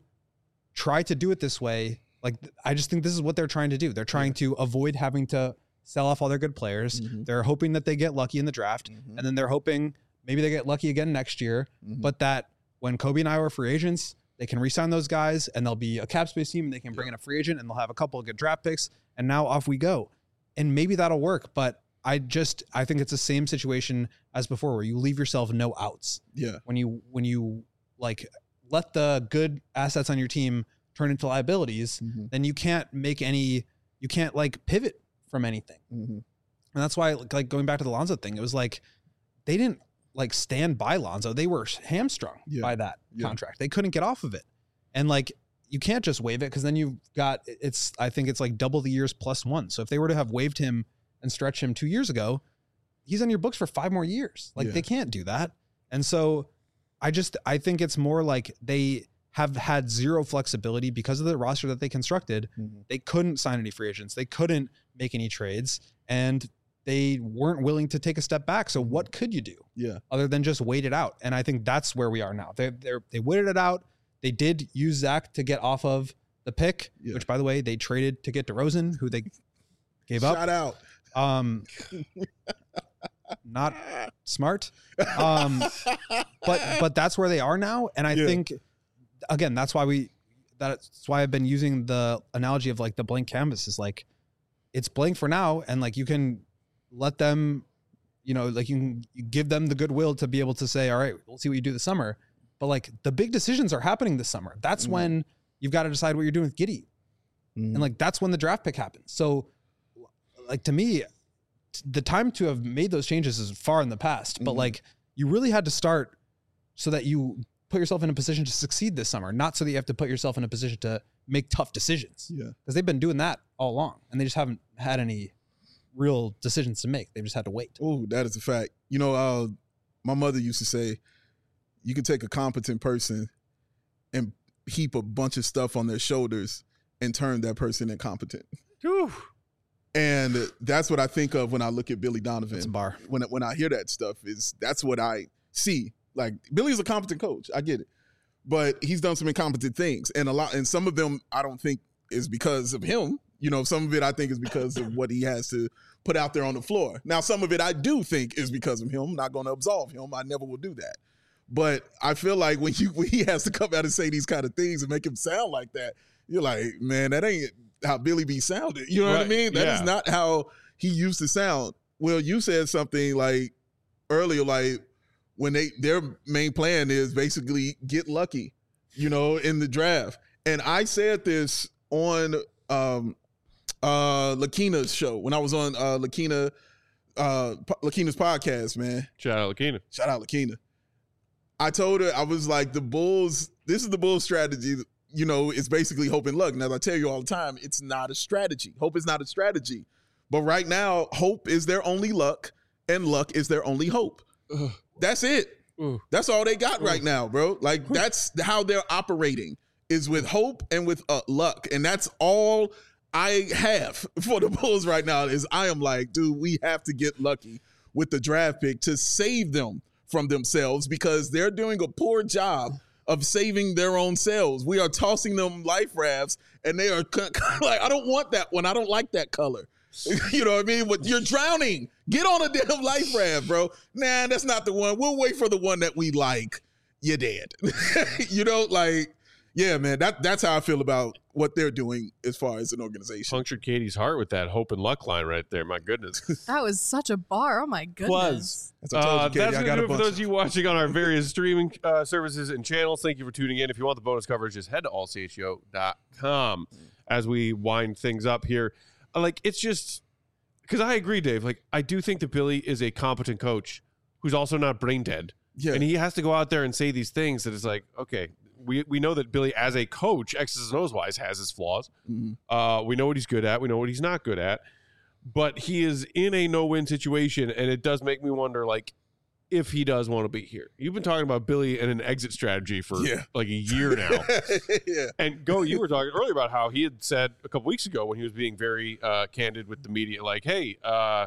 Speaker 4: try to do it this way, like, I just think this is what they're trying to do. They're trying to avoid having to sell off all their good players.
Speaker 3: Mhm.
Speaker 4: They're hoping that they get lucky in the draft.
Speaker 3: Mhm.
Speaker 4: And then they're hoping maybe they get lucky again next year.
Speaker 3: Mhm.
Speaker 4: But that when Kobe and I are free agents, they can re-sign those guys and they'll be a cap space team and they can bring in a free agent and they'll have a couple of good draft picks. And now off we go. And maybe that'll work. But I just, I think it's the same situation as before where you leave yourself no outs.
Speaker 3: Yeah.
Speaker 4: When you, when you like let the good assets on your team turn into liabilities,
Speaker 3: Mhm.
Speaker 4: then you can't make any, you can't like pivot from anything.
Speaker 3: Mhm.
Speaker 4: And that's why, like, going back to the Lonzo thing, it was like, they didn't like stand by Lonzo. They were hamstrung
Speaker 3: Yeah.
Speaker 4: by that
Speaker 3: Yeah.
Speaker 4: contract. They couldn't get off of it. And like, you can't just waive it because then you've got, it's, I think it's like double the years plus one. So if they were to have waived him and stretched him two years ago, he's on your books for five more years. Like,
Speaker 3: Yeah.
Speaker 4: they can't do that. And so I just, I think it's more like they have had zero flexibility because of the roster that they constructed.
Speaker 3: Mhm.
Speaker 4: They couldn't sign any free agents. They couldn't make any trades, and they weren't willing to take a step back. So what could you do
Speaker 3: Yeah.
Speaker 4: other than just wait it out? And I think that's where we are now. They they they waited it out. They did use Zach to get off of the pick,
Speaker 3: Yeah.
Speaker 4: which, by the way, they traded to get DeRozan, who they gave up.
Speaker 3: Shout out.
Speaker 4: Um, not smart. Um, but but that's where they are now, and I
Speaker 3: Yeah.
Speaker 4: think again that's why we that's why I've been using the analogy of like the blank canvas is like it's blank for now, and like you can let them, you know, like you can give them the goodwill to be able to say, all right, we'll see what you do this summer. But like the big decisions are happening this summer. That's
Speaker 3: Mhm.
Speaker 4: when you've got to decide what you're doing with Giddey.
Speaker 3: Mhm.
Speaker 4: And like that's when the draft pick happens. So like to me, t- the time to have made those changes is far in the past. But
Speaker 3: Mhm.
Speaker 4: like you really had to start so that you put yourself in a position to succeed this summer, not so that you have to put yourself in a position to make tough decisions.
Speaker 3: Yeah.
Speaker 4: Because they've been doing that all along and they just haven't had any real decisions to make. They've just had to wait.
Speaker 3: Oh, that is a fact. You know, uh, my mother used to say, you can take a competent person and heap a bunch of stuff on their shoulders and turn that person incompetent.
Speaker 1: Whew.
Speaker 3: And that's what I think of when I look at Billy Donovan.
Speaker 4: It's a bar.
Speaker 3: When when I hear that stuff, is that's what I see. Like, Billy's a competent coach. I get it. But he's done some incompetent things. And a lot and some of them I don't think is because of him. You know, some of it I think is because of what he has to put out there on the floor. Now, some of it I do think is because of him. I'm not going to absolve him. I never will do that. But I feel like when you when he has to come out and say these kind of things and make him sound like that, you're like, man, that ain't how Billy B sounded. You know what I
Speaker 1: Right.
Speaker 3: mean? That is
Speaker 1: Yeah.
Speaker 3: not how he used to sound. Well, you said something like earlier, like when they their main plan is basically get lucky, you know, in the draft. And I said this on um uh Lakina's show when I was on uh Lakina uh Lakina's podcast, man.
Speaker 1: Shout out Lakina.
Speaker 3: Shout out Lakina. I told her, I was like, the Bulls, this is the Bulls strategy. You know, it's basically hope and luck. Now, I tell you all the time, it's not a strategy. Hope is not a strategy. But right now, hope is their only luck, and luck is their only hope. Ugh. That's it. Ugh. That's all they got Ugh. right now, bro. Like, that's how they're operating, is with hope and with uh, luck. And that's all I have for the Bulls right now is I am like, dude, we have to get lucky with the draft pick to save them from themselves because they're doing a poor job of saving their own selves. We are tossing them life rafts, and they are like, I don't want that one. I don't like that color. You know what I mean? But you're drowning. Get on a damn life raft, bro. Nah, that's not the one. We'll wait for the one that we like. You're dead. You know, like, yeah, man, that that's how I feel about what they're doing as far as an organization.
Speaker 1: Punctured Katie's heart with that hope and luck line right there. My goodness.
Speaker 2: That was such a bar. Oh, my goodness.
Speaker 1: That's, uh, Katie, that's going to do it for those of you watching on our various streaming uh, services and channels. Thank you for tuning in. If you want the bonus coverage, just head to all c h o dot com as we wind things up here. Like, it's just because I agree, Dave. Like, I do think that Billy is a competent coach who's also not brain dead. Yeah. And he has to go out there and say these things that is like, okay, we, we know that Billy as a coach, X's and O's wise, has his flaws. Mm-hmm. Uh, we know what he's good at. We know what he's not good at. But he is in a no-win situation, and it does make me wonder, like, if he does want to be here. You've been talking about Billy and an exit strategy for yeah. like a year now. Yeah. And Go, you were talking earlier about how he had said a couple weeks ago when he was being very uh, candid with the media, like, hey, uh,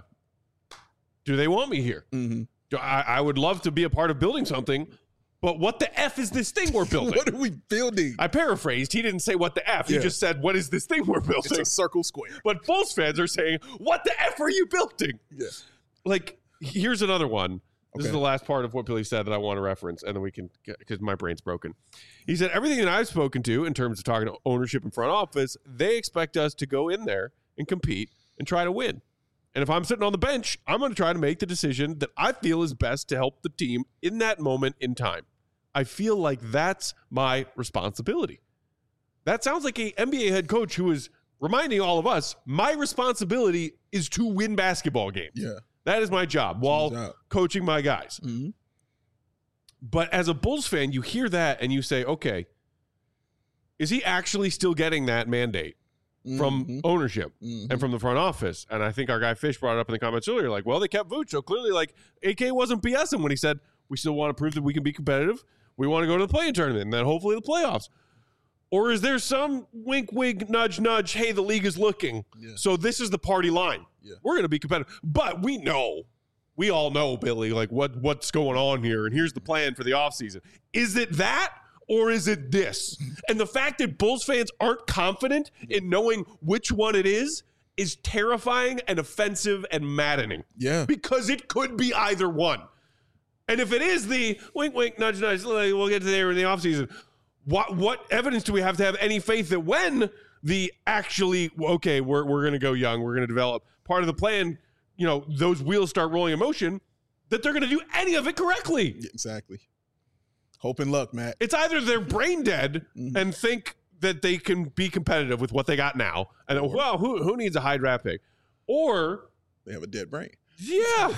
Speaker 1: do they want me here? Mm-hmm. Do I, I would love to be a part of building something, but what the F is this thing we're building?
Speaker 3: What are we building?
Speaker 1: I paraphrased. He didn't say what the F. Yeah. He just said, what is this thing we're building?
Speaker 3: It's a circle square.
Speaker 1: But Bulls fans are saying, what the F are you building? Yeah. Like, here's another one. This okay. is the last part of what Billy said that I want to reference, and then we can, because my brain's broken. He said, everything that I've spoken to in terms of talking to ownership and front office, they expect us to go in there and compete and try to win. And if I'm sitting on the bench, I'm going to try to make the decision that I feel is best to help the team in that moment in time. I feel like that's my responsibility. That sounds like an N B A head coach who is reminding all of us, my responsibility is to win basketball games. Yeah. That is my job while job. coaching my guys. Mm-hmm. But as a Bulls fan, you hear that and you say, okay, is he actually still getting that mandate mm-hmm. from ownership mm-hmm. and from the front office? And I think our guy Fish brought it up in the comments earlier, like, well, they kept Vooch. So clearly, like, A K wasn't BSing when he said, we still want to prove that we can be competitive. We want to go to the play-in tournament and then hopefully the playoffs. Or is there some wink, wink, nudge, nudge, hey, the league is looking, yeah. so this is the party line. Yeah. We're going to be competitive. But we know, we all know, Billy, like what what's going on here, and here's the plan for the offseason. Is it that, or is it this? And the fact that Bulls fans aren't confident in knowing which one it is is terrifying and offensive and maddening. Yeah. Because it could be either one. And if it is the wink, wink, nudge, nudge, we'll get to there in the offseason, What what evidence do we have to have any faith that when the actually, okay, we're we're going to go young, we're going to develop part of the plan, you know, those wheels start rolling in motion, that they're going to do any of it correctly?
Speaker 3: Yeah, exactly. Hope and luck, Matt.
Speaker 1: It's either they're brain dead mm-hmm. and think that they can be competitive with what they got now, and or, well, who who needs a high draft pick? Or
Speaker 3: they have a dead brain.
Speaker 1: Yeah.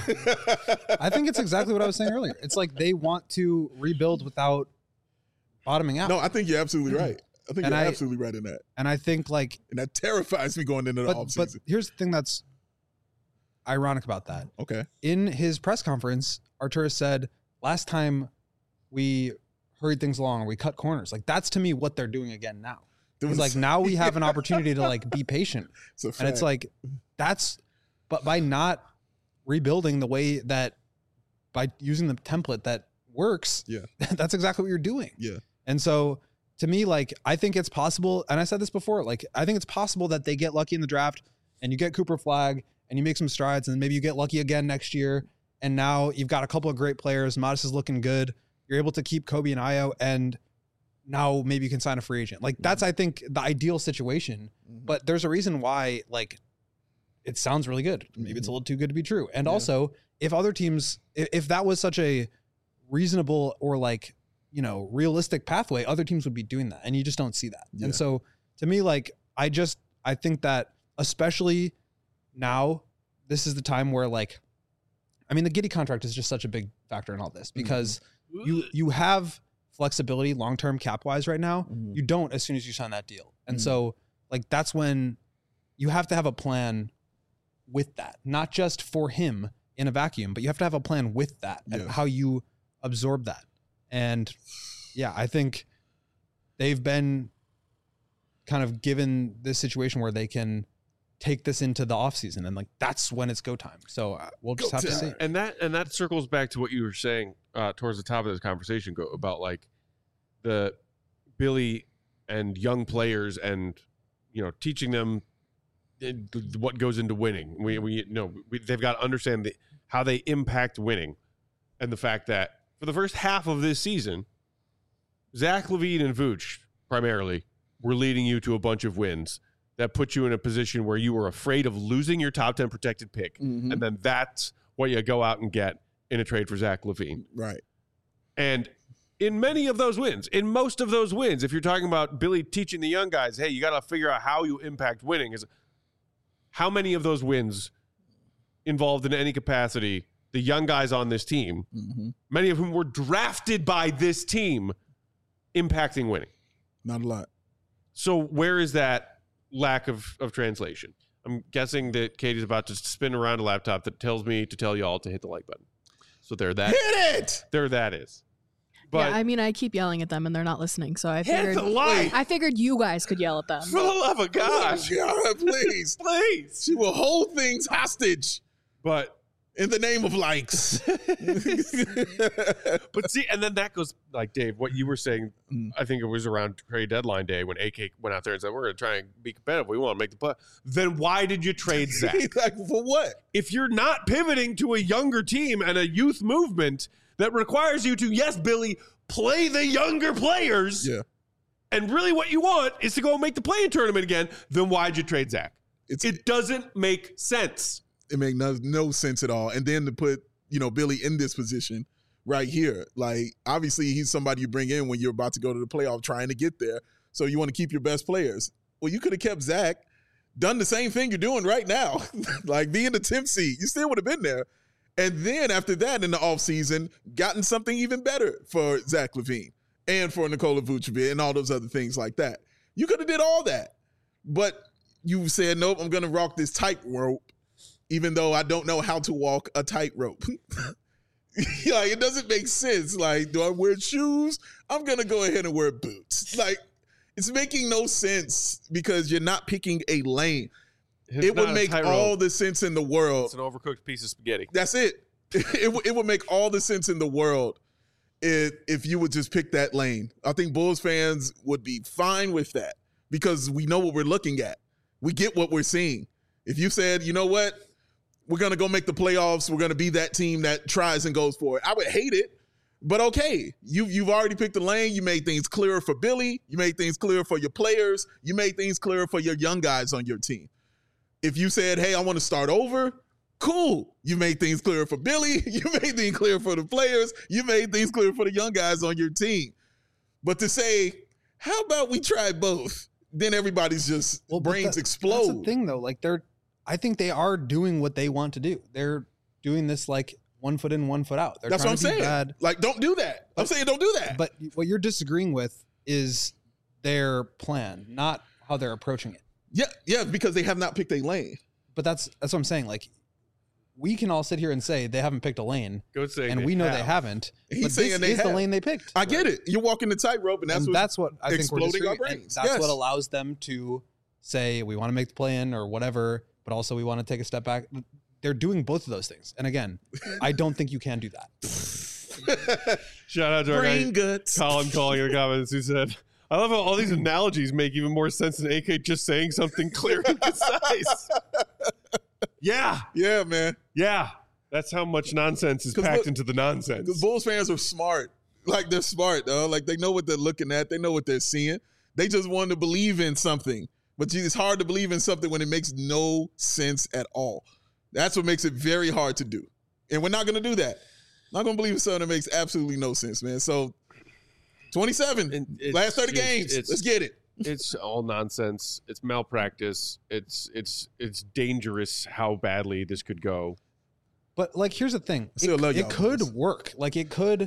Speaker 4: I think it's exactly what I was saying earlier. It's like they want to rebuild without bottoming out.
Speaker 3: No, I think you're absolutely right. I think
Speaker 4: and
Speaker 3: you're
Speaker 4: I,
Speaker 3: absolutely right in that.
Speaker 4: And I think like,
Speaker 3: and that terrifies me going into the
Speaker 4: but,
Speaker 3: offseason.
Speaker 4: But here's the thing that's ironic about that.
Speaker 3: Okay.
Speaker 4: In his press conference, Arturas said, last time we hurried things along, we cut corners. Like that's to me what they're doing again now. It was like, now we have an opportunity to like be patient. It's and it's like, that's, but by not rebuilding the way that, by using the template that works, yeah, that's exactly what you're doing.
Speaker 3: Yeah.
Speaker 4: And so to me, like, I think it's possible, and I said this before, like, I think it's possible that they get lucky in the draft and you get Cooper Flagg and you make some strides and maybe you get lucky again next year. And now you've got a couple of great players. Modest is looking good. You're able to keep Kobe and Ayo, and now maybe you can sign a free agent. Like, that's, I think, the ideal situation. Mm-hmm. But there's a reason why, like, it sounds really good. Maybe mm-hmm. it's a little too good to be true. And yeah. also, if other teams, if, if that was such a reasonable or like, you know, realistic pathway, other teams would be doing that. And you just don't see that. Yeah. And so to me, like, I just, I think that especially now, this is the time where, like, I mean, the Giddey contract is just such a big factor in all this because mm-hmm. you, you have flexibility long-term cap wise right now. Mm-hmm. You don't as soon as you sign that deal. And mm-hmm. so like, that's when you have to have a plan with that, not just for him in a vacuum, but you have to have a plan with that and
Speaker 3: Yeah.
Speaker 4: how you absorb that. And yeah, I think they've been kind of given this situation where they can take this into the offseason and like that's when it's go time. So uh, we'll just
Speaker 3: Go
Speaker 4: have to
Speaker 3: time.
Speaker 4: see.
Speaker 1: And that and that circles back to what you were saying uh, towards the top of this conversation go, about like the Billy and young players and you know teaching them what goes into winning. We we you know we, they've got to understand the, how they impact winning, and the fact that for the first half of this season, Zach LaVine and Vooch primarily were leading you to a bunch of wins that put you in a position where you were afraid of losing your top ten protected pick.
Speaker 3: Mhm.
Speaker 1: And then that's what you go out and get in a trade for Zach LaVine.
Speaker 3: Right.
Speaker 1: And in many of those wins, in most of those wins, if you're talking about Billy teaching the young guys, hey, you got to figure out how you impact winning, is how many of those wins involved in any capacity the young guys on this team,
Speaker 3: Mm-hmm.
Speaker 1: many of whom were drafted by this team, impacting winning.
Speaker 3: Not a lot.
Speaker 1: So where is that lack of, of translation? I'm guessing that Katie's about to spin around a laptop that tells me to tell y'all to hit the like button. So there that
Speaker 3: Hit it.
Speaker 1: there that is. But
Speaker 2: yeah, I mean, I keep yelling at them and they're not listening. So I
Speaker 1: hit
Speaker 2: figured
Speaker 1: the like.
Speaker 2: I figured you guys could yell at them.
Speaker 1: For the love of gosh.
Speaker 3: God, please.
Speaker 1: Please.
Speaker 3: She will hold things hostage
Speaker 1: But
Speaker 3: in the name of likes.
Speaker 1: but see, and then that goes like Dave, what you were saying,
Speaker 3: Mm.
Speaker 1: I think it was around trade deadline day when A K went out there and said, we're going to try and be competitive. We want to make the play. Then why did you trade Zach?
Speaker 3: Like, for what?
Speaker 1: If you're not pivoting to a younger team and a youth movement that requires you to, yes, Billy, play the younger players,
Speaker 3: Yeah.
Speaker 1: and really what you want is to go make the play-in tournament again, then why'd you trade Zach?
Speaker 3: It's,
Speaker 1: It doesn't make sense.
Speaker 3: it made no, no sense at all. And then to put, you know, Billy in this position right here, like obviously he's somebody you bring in when you're about to go to the playoff trying to get there. So you want to keep your best players. Well, you could have kept Zach, done the same thing you're doing right now, like being the tenth seed. You still would have been there. And then after that in the offseason, gotten something even better for Zach LaVine and for Nikola Vucevic and all those other things like that. You could have did all that. But you said, nope, I'm going to rock this tightrope, even though I don't know how to walk a tightrope. Like, it doesn't make sense. Like, do I wear shoes? I'm going to go ahead and wear boots. Like, it's making no sense because you're not picking a lane.
Speaker 1: It's
Speaker 3: it
Speaker 1: not
Speaker 3: would
Speaker 1: a
Speaker 3: make
Speaker 1: tightrope.
Speaker 3: all the sense in the world.
Speaker 1: It's an overcooked piece of spaghetti.
Speaker 3: That's it. It, would- it would make all the sense in the world if, if you would just pick that lane. I think Bulls fans would be fine with that because we know what we're looking at. We get what we're seeing. If you said, you know what, we're going to go make the playoffs, we're going to be that team that tries and goes for it, I would hate it. But okay, you, you've already picked the lane. You made things clearer for Billy. You made things clearer for your players. You made things clearer for your young guys on your team. If you said, hey, I want to start over, cool. You made things clearer for Billy. You made things clear for the players. You made things clear for the young guys on your team. But to say, how about we try both? Then everybody's just
Speaker 4: Well, but
Speaker 3: brains
Speaker 4: that-
Speaker 3: explode.
Speaker 4: That's the thing, though. Like they're, I think they are doing what they want to do. They're doing this like one foot in, one foot out. They're
Speaker 3: That's what
Speaker 4: trying
Speaker 3: I'm
Speaker 4: to be
Speaker 3: saying.
Speaker 4: bad.
Speaker 3: Like, don't do that. I'm saying don't do that.
Speaker 4: But what you're disagreeing with is their plan, not how they're approaching it.
Speaker 3: yeah, yeah, because they have not picked a lane.
Speaker 4: But that's that's what I'm saying. Like, we can all sit here and say they haven't picked a lane,
Speaker 1: Go say
Speaker 4: and
Speaker 1: they
Speaker 4: we know
Speaker 1: have.
Speaker 4: they haven't.
Speaker 3: He's
Speaker 4: but
Speaker 3: saying
Speaker 4: this
Speaker 3: they
Speaker 4: is the
Speaker 3: have.
Speaker 4: lane they picked.
Speaker 3: I get it. You're walking the tightrope, and that's
Speaker 4: and
Speaker 3: what
Speaker 4: that's what I think we're
Speaker 3: exploding our
Speaker 4: disagreeing. And
Speaker 3: brains.
Speaker 4: That's
Speaker 3: Yes.
Speaker 4: what allows them to say we want to make the play in or whatever, but also we want to take a step back. They're doing both of those things. And again, I don't think you can do that.
Speaker 1: Shout out to our
Speaker 3: brain
Speaker 1: guy,
Speaker 3: guts.
Speaker 1: Colin calling in the comments who said, I love how all these analogies make even more sense than A K just saying something clear and concise. Yeah.
Speaker 3: Yeah, man.
Speaker 1: Yeah. That's how much nonsense is
Speaker 3: 'Cause
Speaker 1: packed
Speaker 3: look-
Speaker 1: into the nonsense.
Speaker 3: Because Bulls fans are smart. Like, they're smart, though. Like, they know what they're looking at. They know what they're seeing. They just want to believe in something. But gee, it's hard to believe in something when it makes no sense at all. That's what makes it very hard to do. And we're not going to do that. Not going to believe in something that makes absolutely no sense, man. So, twenty-seven,
Speaker 1: And it's
Speaker 3: last thirty
Speaker 1: just-
Speaker 3: games.
Speaker 1: it's-
Speaker 3: Let's get it.
Speaker 1: It's all nonsense. It's malpractice. It's it's it's dangerous how badly this could go.
Speaker 4: But like, here's the thing:
Speaker 3: Still
Speaker 4: it,
Speaker 3: love
Speaker 4: it
Speaker 3: y'all,
Speaker 4: could
Speaker 3: boys.
Speaker 4: work. Like, it could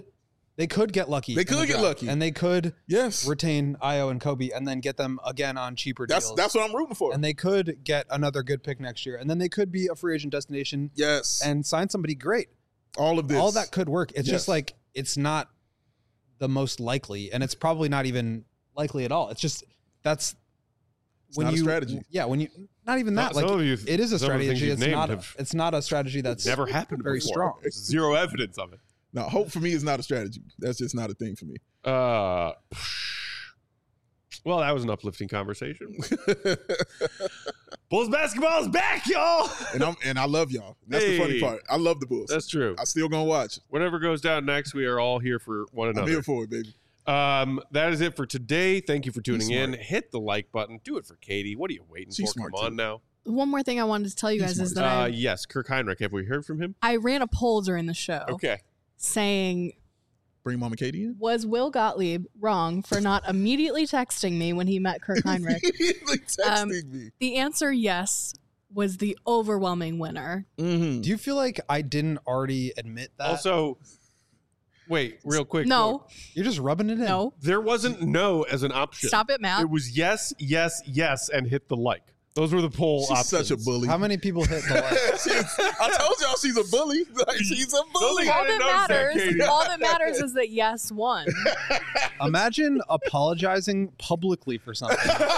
Speaker 4: They could get lucky.
Speaker 3: They
Speaker 4: in the
Speaker 3: could get
Speaker 4: draft,
Speaker 3: lucky.
Speaker 4: and they could
Speaker 3: Yes.
Speaker 4: retain Io and Kobe, and then get them again on cheaper
Speaker 3: That's
Speaker 4: deals.
Speaker 3: that's what I'm rooting for.
Speaker 4: And they could get another good pick next year, and then they could be a free agent destination.
Speaker 3: Yes.
Speaker 4: And sign somebody great.
Speaker 3: All of this.
Speaker 4: All that could work. It's
Speaker 3: Yes.
Speaker 4: just like it's not the most likely, and it's probably not even likely at all. It's just that's
Speaker 3: It's
Speaker 4: when
Speaker 3: not a
Speaker 4: you
Speaker 3: strategy.
Speaker 4: Yeah, when you not even that.
Speaker 1: Not-
Speaker 4: like
Speaker 1: some of you-
Speaker 4: it is a
Speaker 1: some of the things
Speaker 4: strategy.
Speaker 1: you've
Speaker 4: It's
Speaker 1: named
Speaker 4: not.
Speaker 1: have
Speaker 4: It's not a strategy that's
Speaker 1: Never happened
Speaker 4: very
Speaker 1: before.
Speaker 4: strong.
Speaker 1: There's zero evidence of it.
Speaker 3: No, hope for me is not a strategy. That's just not a thing for me.
Speaker 1: Uh, well, that was an uplifting conversation. Bulls basketball is back, y'all.
Speaker 3: And I'm and I love y'all. That's the funny
Speaker 1: Hey.
Speaker 3: part. I love the Bulls.
Speaker 1: That's true.
Speaker 3: I still gonna watch.
Speaker 1: Whatever goes down next, we are all here for one
Speaker 3: I'm
Speaker 1: another.
Speaker 3: here for it, baby.
Speaker 1: Um, that is it for today. Thank you for tuning
Speaker 3: He's
Speaker 1: in.
Speaker 3: smart.
Speaker 1: Hit the like button. Do it for Katie. What are you waiting
Speaker 3: She's
Speaker 1: for?
Speaker 3: smart,
Speaker 1: Come on
Speaker 3: too.
Speaker 1: now.
Speaker 2: One more thing I wanted to tell you
Speaker 3: He's
Speaker 2: guys is
Speaker 3: smart.
Speaker 2: that
Speaker 1: Uh,
Speaker 2: I,
Speaker 1: yes, Kirk Heinrich. Have we heard from him?
Speaker 2: I ran a poll during the show
Speaker 1: Okay.
Speaker 2: saying,
Speaker 3: Bring Mama Katie in.
Speaker 2: was Will Gottlieb wrong for not immediately texting me when he met Kirk Heinrich?
Speaker 3: Immediately texting
Speaker 2: Um,
Speaker 3: me.
Speaker 2: The answer, yes, was the overwhelming winner.
Speaker 3: Mm-hmm.
Speaker 4: Do you feel like I didn't already admit that?
Speaker 1: Also, wait, real quick.
Speaker 2: No,
Speaker 4: you're just rubbing it in.
Speaker 2: no.
Speaker 1: There wasn't no as an option.
Speaker 2: Stop it, Matt.
Speaker 1: It was yes, yes, yes, and hit the like. Those were the poll
Speaker 3: She's
Speaker 1: options.
Speaker 3: such a bully.
Speaker 4: How many people hit the like?
Speaker 3: She's- I told y'all she's a bully. Like, she's a bully.
Speaker 1: I
Speaker 2: All
Speaker 1: didn't
Speaker 2: that
Speaker 1: notice that,
Speaker 2: matters,
Speaker 1: Katie.
Speaker 2: all that matters is that yes won.
Speaker 4: Imagine apologizing publicly for something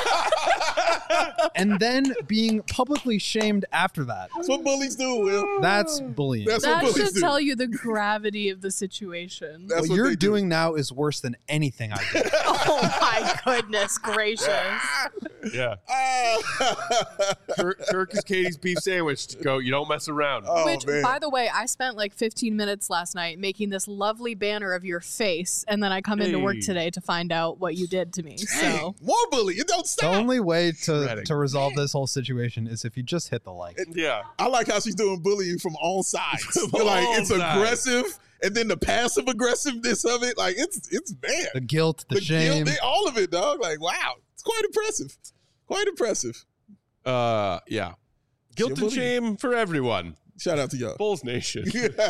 Speaker 4: and then being publicly shamed after that.
Speaker 3: That's what bullies do, Will.
Speaker 4: That's bullying.
Speaker 3: That's
Speaker 2: That
Speaker 3: what bullies
Speaker 2: should
Speaker 3: do.
Speaker 2: tell you the gravity of the situation.
Speaker 3: That's
Speaker 4: what,
Speaker 3: what
Speaker 4: you're
Speaker 3: they do.
Speaker 4: doing now is worse than anything I did.
Speaker 2: Oh my goodness gracious.
Speaker 1: Yeah.
Speaker 3: Ah.
Speaker 1: Kirk, Kirk is Katie's beef sandwich. Go. You don't mess around.
Speaker 3: Oh,
Speaker 2: Which,
Speaker 3: man.
Speaker 2: by the way, I spent like fifteen minutes last night making this lovely banner of your face, and then I come into work
Speaker 1: Hey.
Speaker 2: today to find out what you did to me. So
Speaker 3: More bully. It don't
Speaker 4: The
Speaker 3: stop.
Speaker 4: only way to,
Speaker 1: Shredding.
Speaker 4: to resolve this whole situation is if you just hit the like.
Speaker 1: Yeah.
Speaker 3: I like how she's doing bullying from all sides.
Speaker 1: From
Speaker 3: like
Speaker 1: all
Speaker 3: it's
Speaker 1: sides.
Speaker 3: aggressive, and then the passive aggressiveness of it, like it's it's bad.
Speaker 4: The guilt, the,
Speaker 3: The
Speaker 4: shame.
Speaker 3: guilt, all of it, dog. Like wow, it's quite impressive. Quite impressive.
Speaker 1: Uh, yeah. Guilt and
Speaker 3: bully.
Speaker 1: shame for everyone.
Speaker 3: Shout out to y'all.
Speaker 1: Bulls Nation.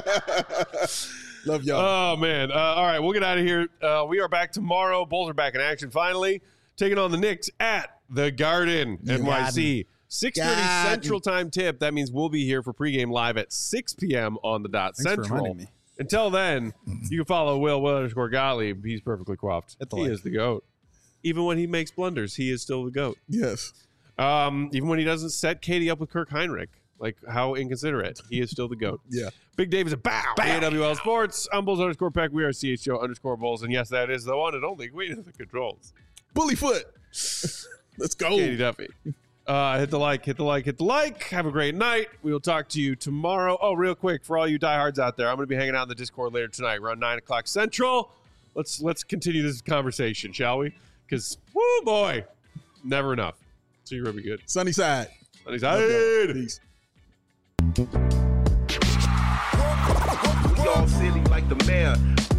Speaker 3: Love y'all.
Speaker 1: Oh man! Uh, all right, we'll get out of here. Uh, we are back tomorrow. Bulls are back in action finally, taking on the Knicks at the Garden, N Y C. six thirty
Speaker 3: Garden.
Speaker 1: Central Time tip. That means we'll be here for pregame live at six p.m. on the dot
Speaker 4: Thanks for
Speaker 1: Central.
Speaker 4: reminding me.
Speaker 1: Until then, you can follow Will Will underscore Gottlieb. He's perfectly coiffed.
Speaker 4: Hit the
Speaker 1: He
Speaker 4: like.
Speaker 1: is the goat. Even when he makes blunders, he is still the goat.
Speaker 3: Yes.
Speaker 1: Um, even when he doesn't set Katie up with Kirk Heinrich, like how inconsiderate, he is still the GOAT.
Speaker 3: Yeah.
Speaker 1: Big Dave is a bow. A W L Sports. I'm Bulls underscore Peck. We are C H O underscore Bulls. And yes, that is the one and only queen of the controls.
Speaker 3: Bully foot. Let's go.
Speaker 1: Katie Duffy. Uh, hit the like, hit the like, hit the like. Have a great night. We will talk to you tomorrow. Oh, real quick, for all you diehards out there, I'm going to be hanging out in the Discord later tonight around nine o'clock Central. Let's let's continue this conversation, shall we? Because, whoo, boy, never enough. So you're going to be good.
Speaker 3: Sunny side.
Speaker 1: Sunny
Speaker 3: Love y'all.
Speaker 1: side.
Speaker 3: Peace.
Speaker 11: We all silly like the mayor.